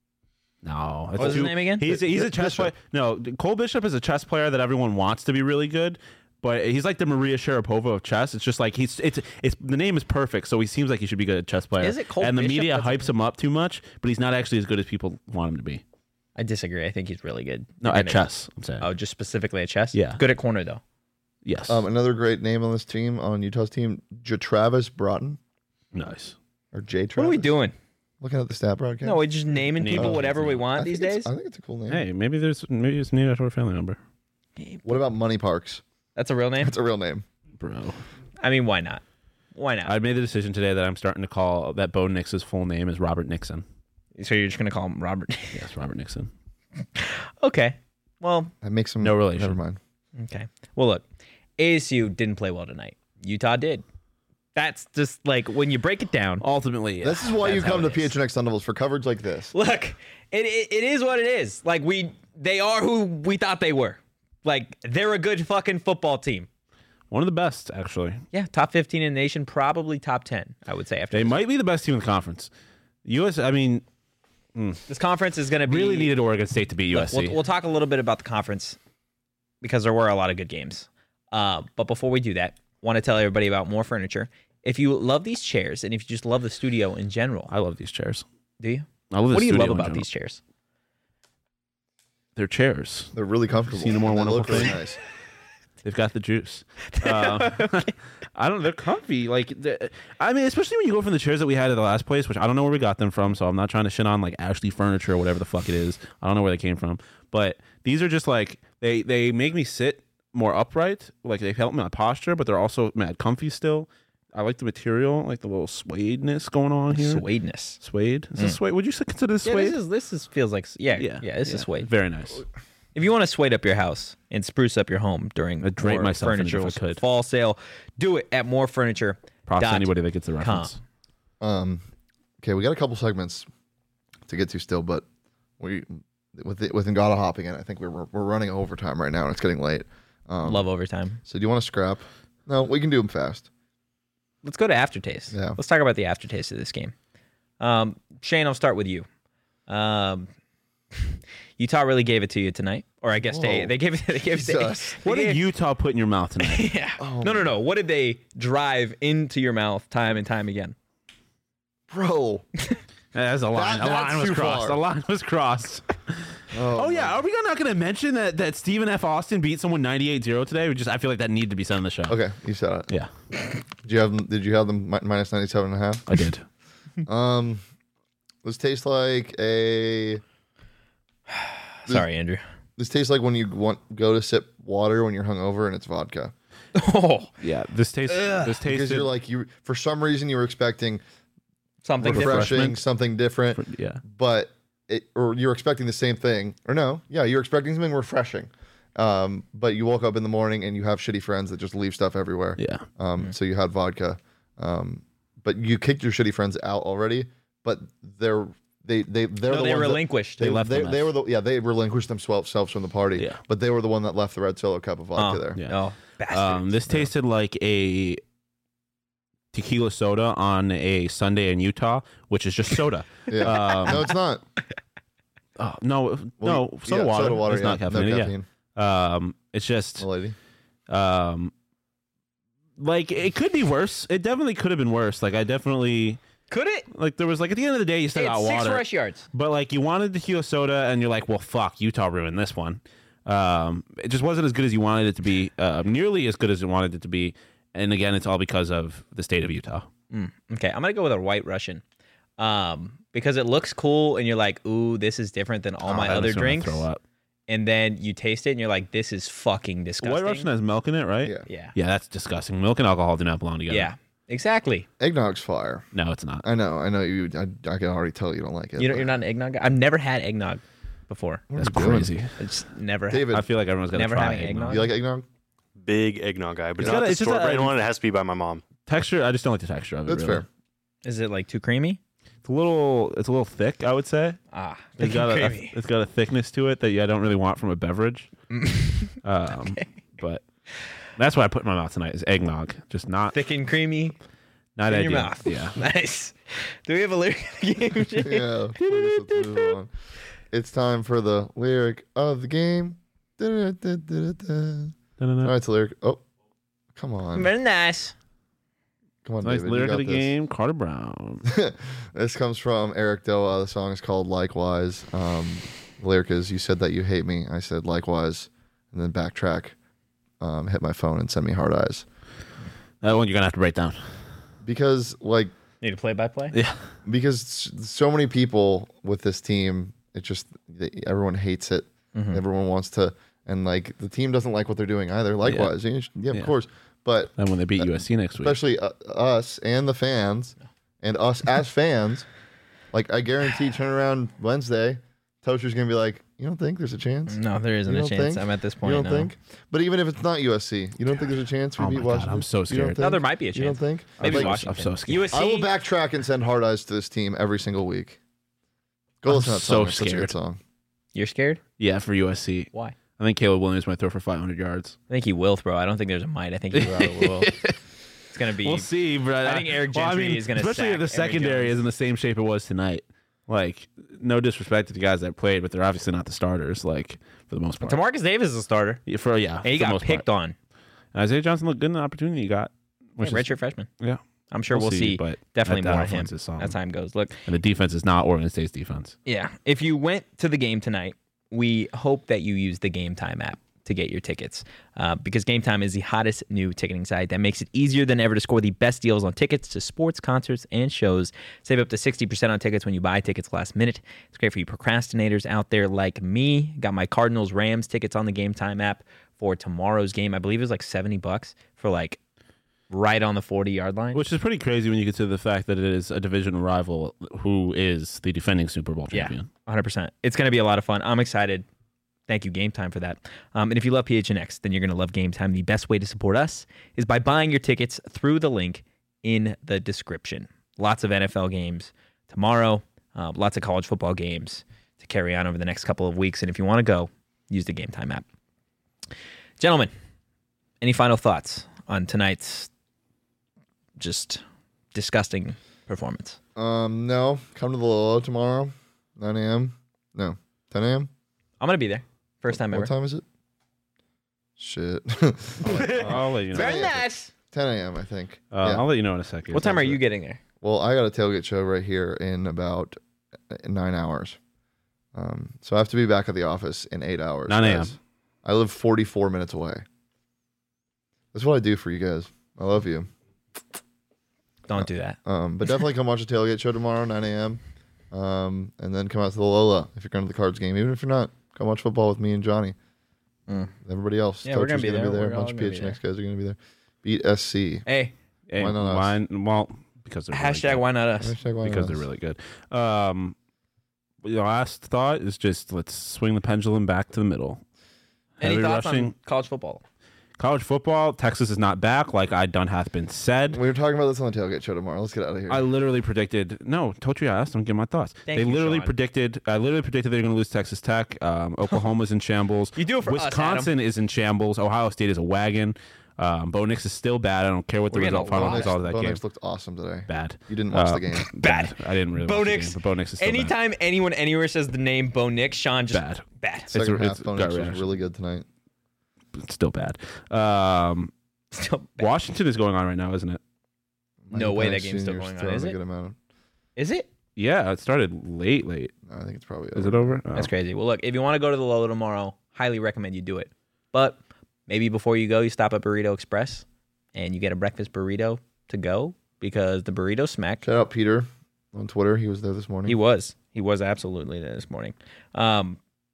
no, that's What's his too- name again? He's he's a Bishop. chess player. No, Cole Bishop is a chess player that everyone wants to be really good. But he's like the Maria Sharapova of chess. It's just like he's it's it's the name is perfect, so he seems like he should be good at chess player. Is it Cole And the Bishop? media That's hypes him up too much, but he's not actually as good as people want him to be. I disagree. I think he's really good. No, And at it- chess. I'm saying. Oh, just specifically at chess? Yeah. Good at corner, though. yes. Um, another great name on this team, on Utah's team, Travis Broughton nice. or J. Travis. What are we doing? Looking at the stat broadcast. No, we're just naming Name people of whatever his we name. want I these think it's- days. I think it's a cool name. Hey, maybe there's maybe it's named after a family member, What about Money Parks? That's a real name? That's a real name. bro. I mean, why not? Why not? I made the decision today that I'm starting to call that Bo Nix's full name is Robert Nixon. so you're just going to call him Robert? Yes, Robert Nixon. Okay. Well, That makes him No relation. Never mind. okay. Well, look, A S U didn't play well tonight. Utah did. That's just like when you break it down. Ultimately, yeah. This is why you That's how come to it is. P H N X Sun Devils for coverage like this. Look, it, it it is what it is. Like we, they are who we thought they were. Like they're a good fucking football team. one of the best actually. Yeah, top fifteen in the nation, probably top ten. I would say after They this. might be the best team in the conference. U S. I mean, This conference is going to be really needed Oregon State to beat U S C. We'll, we'll talk a little bit about the conference because there were a lot of good games. Uh, but before we do that, want to tell everybody about More Furniture. If you love these chairs and if you just love the studio in general, I love these chairs. do you? I love. The What do you studio love in about general. these chairs? They're chairs. They're really comfortable. Seen a more and they wonderful look really thing? nice. They've got the juice. Um, I don't. They're comfy. Like, they're- I mean, especially when you go from the chairs that we had at the last place, which I don't know where we got them from. So I'm not trying to shit on like Ashley Furniture or whatever the fuck it is. I don't know where they came from. But these are just like they they make me sit more upright. Like they help my posture, but they're also mad comfy still. I like the material, like the little suede-ness going on here. Suedeness. Suede? Is this suede? Would you consider this Yeah, suede? this is this is feels like yeah yeah, yeah this is suede. Very nice. If you want to suede up your house and spruce up your home during I'd drape More myself in it if I Furniture's could. fall sale, do it at More Furniture. Props to anybody that gets the reference. Um, okay, we got a couple segments to get to still, but we with the, with Ngata hopping in, I think we're we're running overtime right now, and it's getting late. Um, Love overtime. So do you want to scrap? No, we can do them fast. Let's go to aftertaste. Yeah. Let's talk about the aftertaste of this game. Um, Shane, I'll start with you. Um, Utah really gave it to you tonight, or I guess they Whoa. they gave it. They gave it. They, Jesus. What they did gave- Utah put in your mouth tonight? Yeah. Oh no, no, no. What did they drive into your mouth time and time again? Bro. That's a line. That- a line that's was too crossed. far. A line was crossed. Oh, Oh my- yeah, are we not going to mention that that Stephen F. Austin beat someone ninety-eight zero today? We just I feel like that needed to be said on the show. Okay, you said it. Yeah, Did you have them? Did you have them mi- minus ninety-seven and a half? I did. Um, this tastes like a. Sorry, Andrew. This tastes like when you want go to sip water when you're hungover and it's vodka. Oh, Yeah, this tastes. This Because tasted. you're like you for some reason you were expecting something different. refreshing, Refreshment. something different, yeah. but it, or you're expecting the same thing, or no, yeah, you're expecting something refreshing, um, but you woke up in the morning and you have shitty friends that just leave stuff everywhere. Yeah. Um, so you had vodka, um, but you kicked your shitty friends out already. But they're they they they're No, the they ones that- relinquished. They, They left they, the they mess. were the yeah they relinquished themselves from the party. Yeah. But they were the one that left the red solo cup of vodka Oh, there. Yeah. Oh, bastards. Um, this tasted like a tequila soda on a Sunday in Utah, which is just soda. Yeah. Um, no, it's not. Oh, no, Well, no, soda yeah, water. Soda water. It's yeah. not No caffeinated. caffeine. Yeah. Um, it's just The lady. um, like it could be worse. It definitely could have been worse. Like I definitely Could it? like there was like at the end of the day you still Hey, got it's six water, rush yards. but like you wanted tequila soda and you're like, well, fuck, Utah ruined this one. Um, it just wasn't as good as you wanted it to be. Uh, nearly as good as you wanted it to be. And again, it's all because of the state of Utah. Mm, okay, I'm gonna go with a White Russian, um, because it looks cool, and you're like, "Ooh, this is different than all Oh, my that other makes me wanna drinks." Throw up. And then you taste it, and you're like, "This is fucking disgusting." White Russian has milk in it, right? Yeah. Yeah. Yeah, that's disgusting. Milk and alcohol do not belong together. Yeah. Exactly. Eggnog's fire. No, it's not. I know. I know you. I, I can already tell you don't like it. You know, but- you're not an eggnog guy. I've never had eggnog before. That's are you doing? crazy. I just never. David, I feel like everyone's gonna Never try having eggnog. eggnog? you like eggnog? Big eggnog guy, but It's not gotta- the it's just store a- brand one. It has to be by my mom. Texture, I just don't like the texture of it. That's really. fair. Is it like too creamy? It's a little, it's a little thick, I would say. Ah, It's got a, a, it's got a thickness to it that I don't really want from a beverage. um, But that's what I put in my mouth tonight is eggnog, just not thick and creamy not in ideal. your mouth. Yeah. Nice. Do we have a lyric of the game? Shane? Yeah. Please, let's move on. It's time for the lyric of the game. Da-da-da-da-da-da. All No, no, no. right, it's a lyric. Oh, come on. Very nice. Come on, Nice David. you lyric of got the this. game, Carter Brown. This comes from Eric Doa. The song is called Likewise. Um, the lyric is, you said that you hate me. I said likewise. And then backtrack, um, hit my phone and send me hard eyes. That one you're gonna have to break down. Because, like, Need a play by play? Yeah. because s- so many people with this team, it just, they, everyone hates it. Mm-hmm. Everyone wants to, and like, the team doesn't like what they're doing either. Likewise. Yeah, yeah, of Yeah. course. But Then when they beat U S C next week. especially uh, us and the fans and us as fans, like I guarantee turn around Wednesday, Toaster's gonna be like, you don't think there's a chance? No, there isn't You a don't chance. think? I'm at this point. You don't no. think? But even if it's not U S C, you don't think there's a chance we Oh beat my God, Washington? I'm so You don't scared. think? No, there might be a You don't chance. think? Maybe Like, Washington. I'm so scared. U S C. I will backtrack and send hard eyes to this team every single week. Go I'm listen to that so song. It's such a good scared. song. You're scared? Yeah, for U S C. Why? I think Caleb Williams might throw for five hundred yards. I think he will throw. I don't think there's a might. I think he will. It's gonna be. We'll see, but I think Eric well, I Gentry mean, is gonna especially sack if the Emory secondary Jones. is in the same shape it was tonight. Like, no disrespect to the guys that played, but they're obviously not the starters. Like for the most part. Demarcus Davis is a starter, Yeah, for yeah, and he for the got most picked part. on. And Isaiah Johnson looked good in the opportunity he got. Which Yeah, is, redshirt freshman. yeah, I'm sure we'll, We'll see, see, but definitely that- that more of him offense is solid. as time goes. Look, and the defense is not Oregon State's defense. yeah. If you went to the game tonight, we hope that you use the Game Time app to get your tickets, uh, because Game Time is the hottest new ticketing site that makes it easier than ever to score the best deals on tickets to sports, concerts, and shows. Save up to sixty percent on tickets when you buy tickets last minute. It's great for you procrastinators out there like me. Got my Cardinals Rams tickets on the Game Time app for tomorrow's game. I believe it was like seventy bucks for like right on the forty-yard line. Which is pretty crazy when you consider the fact that it is a division rival who is the defending Super Bowl Yeah, champion. one hundred percent. It's going to be a lot of fun. I'm excited. Thank you, Game Time, for that. Um, and if you love P H N X, then you're going to love Game Time. The best way to support us is by buying your tickets through the link in the description. Lots of N F L games tomorrow, uh, lots of college football games to carry on over the next couple of weeks. And if you want to go, use the Game Time app. Gentlemen, any final thoughts on tonight's just disgusting performance? Um, no. Come to the Lolo tomorrow, nine a.m. No, ten a.m. I'm going to be there. First time ever. What time is it? Shit. I'll let you know. Very nice. ten a.m. I think. Uh, Yeah. I'll let you know in a second. What time are you getting there? Well, I got a tailgate show right here in about uh, nine hours. Um, so I have to be back at the office in eight hours. nine a.m. guys. I live forty-four minutes away. That's what I do for you guys. I love you. Don't do that. Um, but definitely come watch the tailgate show tomorrow, nine a.m. Um, and then come out to the Lola if you're going to the Cards game. Even if you're not, come watch football with me and Johnny. Mm. Everybody else. Yeah, we're gonna Coach is be gonna there. be there. We're A bunch all of gonna P be H N X guys are going to be there. Beat S C. Hey, Hey, Why not us? mine, well, because they're really hashtag good. why not us? Hashtag why because not they're us? really good. Um, the last thought is just let's swing the pendulum back to the middle. Any Heavy thoughts rushing. on college football? College football, Texas is not back, like I done hath been said. We were talking about this on the tailgate show tomorrow. Let's get out of here. I literally predicted. No, told you I asked. I'm giving my thoughts. Thank they you, literally Sean. predicted. I literally predicted they're going to lose Texas Tech. Um, Oklahoma's in shambles. You do it for us, Wisconsin is in shambles. Ohio State is a wagon. Um, Bo Nix is still bad. I don't care what the We're getting result, a final lot. result of that Bo game. Nix looked awesome today. Bad. You didn't watch Uh, the game. Bad. I didn't really. Bo watch the Nix. game, but Bo Nix is still Anytime anyone anywhere says the name Bo Nix, Sean just bad. bad. It's Second a- half, it's Bo gut Nix was reaction. really good tonight. It's still bad. Um, Still bad. Washington is going on right now, isn't it? No Mike way that Penix game's still Junior's going on, throwing is a it? Good amount of, Is it? Yeah, it started late. Late. no, I think it's probably. Is over. it over? Oh. That's crazy. Well, look, if you want to go to the Lola tomorrow, highly recommend you do it. But maybe before you go, you stop at Burrito Express and you get a breakfast burrito to go because the burrito smack. Shout out Peter on Twitter. He was there this morning. He was. He was absolutely there this morning. Um,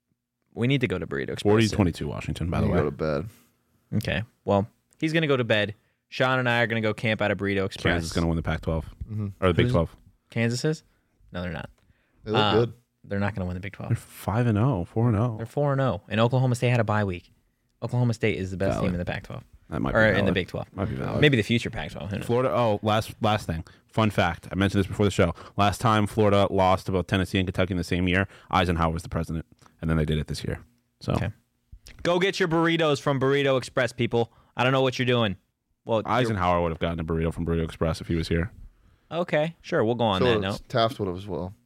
we need to go to Burrito Express. forty soon. twenty-two Washington, by the You way. go to bed. Okay. Well, he's going to go to bed. Sean and I are going to go camp out of Burrito Express. Kansas is going to win the Pac twelve Mm-hmm. or the Big Who's- twelve. Kansas is? No, they're not. They look Uh, good. They're not going to win the Big They're twelve. five and zero, four and zero. They're four and oh. And Oklahoma State had a bye week. Oklahoma State is the best Valid. team in the Pac twelve. That might be Or in valid. the Big twelve. Might be valid. Maybe the future Pac twelve. Who knows? Florida. Oh, last last thing. Fun fact. I mentioned this before the show. Last time Florida lost to both Tennessee and Kentucky in the same year, Eisenhower was the president, and then they did it this year. So Okay. Go get your burritos from Burrito Express, people. I don't know what you're doing. Well, you're- Eisenhower would have gotten a burrito from Burrito Express if he was here. okay, sure. We'll go on So that it's- note. Taft would have as well.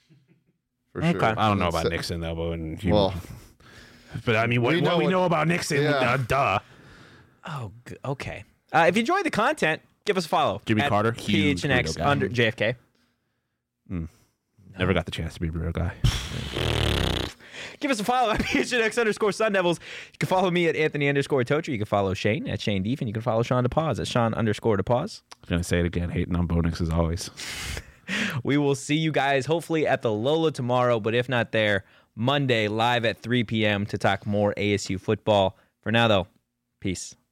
For Okay. sure. I don't know And about so- Nixon though, but when he, Well, but I mean, what we what know we what- know about Nixon? Yeah. Uh, duh. Oh, g- okay. Uh, if you enjoyed the content, give us a follow. Jimmy at Carter, P huge H N X burrito guy. under J F K. Never got the chance to be a burrito guy. Give us a follow at P H N X underscore Sun Devils. You can follow me at Anthony underscore Tocher. You can follow Shane at Shane Deef, and you can follow Sean DePause at Sean underscore DePause. I'm gonna say it again, hating on Bo Nix as always. We will see you guys hopefully at the Lola tomorrow, but if not there, Monday live at three p.m. to talk more A S U football. For now, though, peace.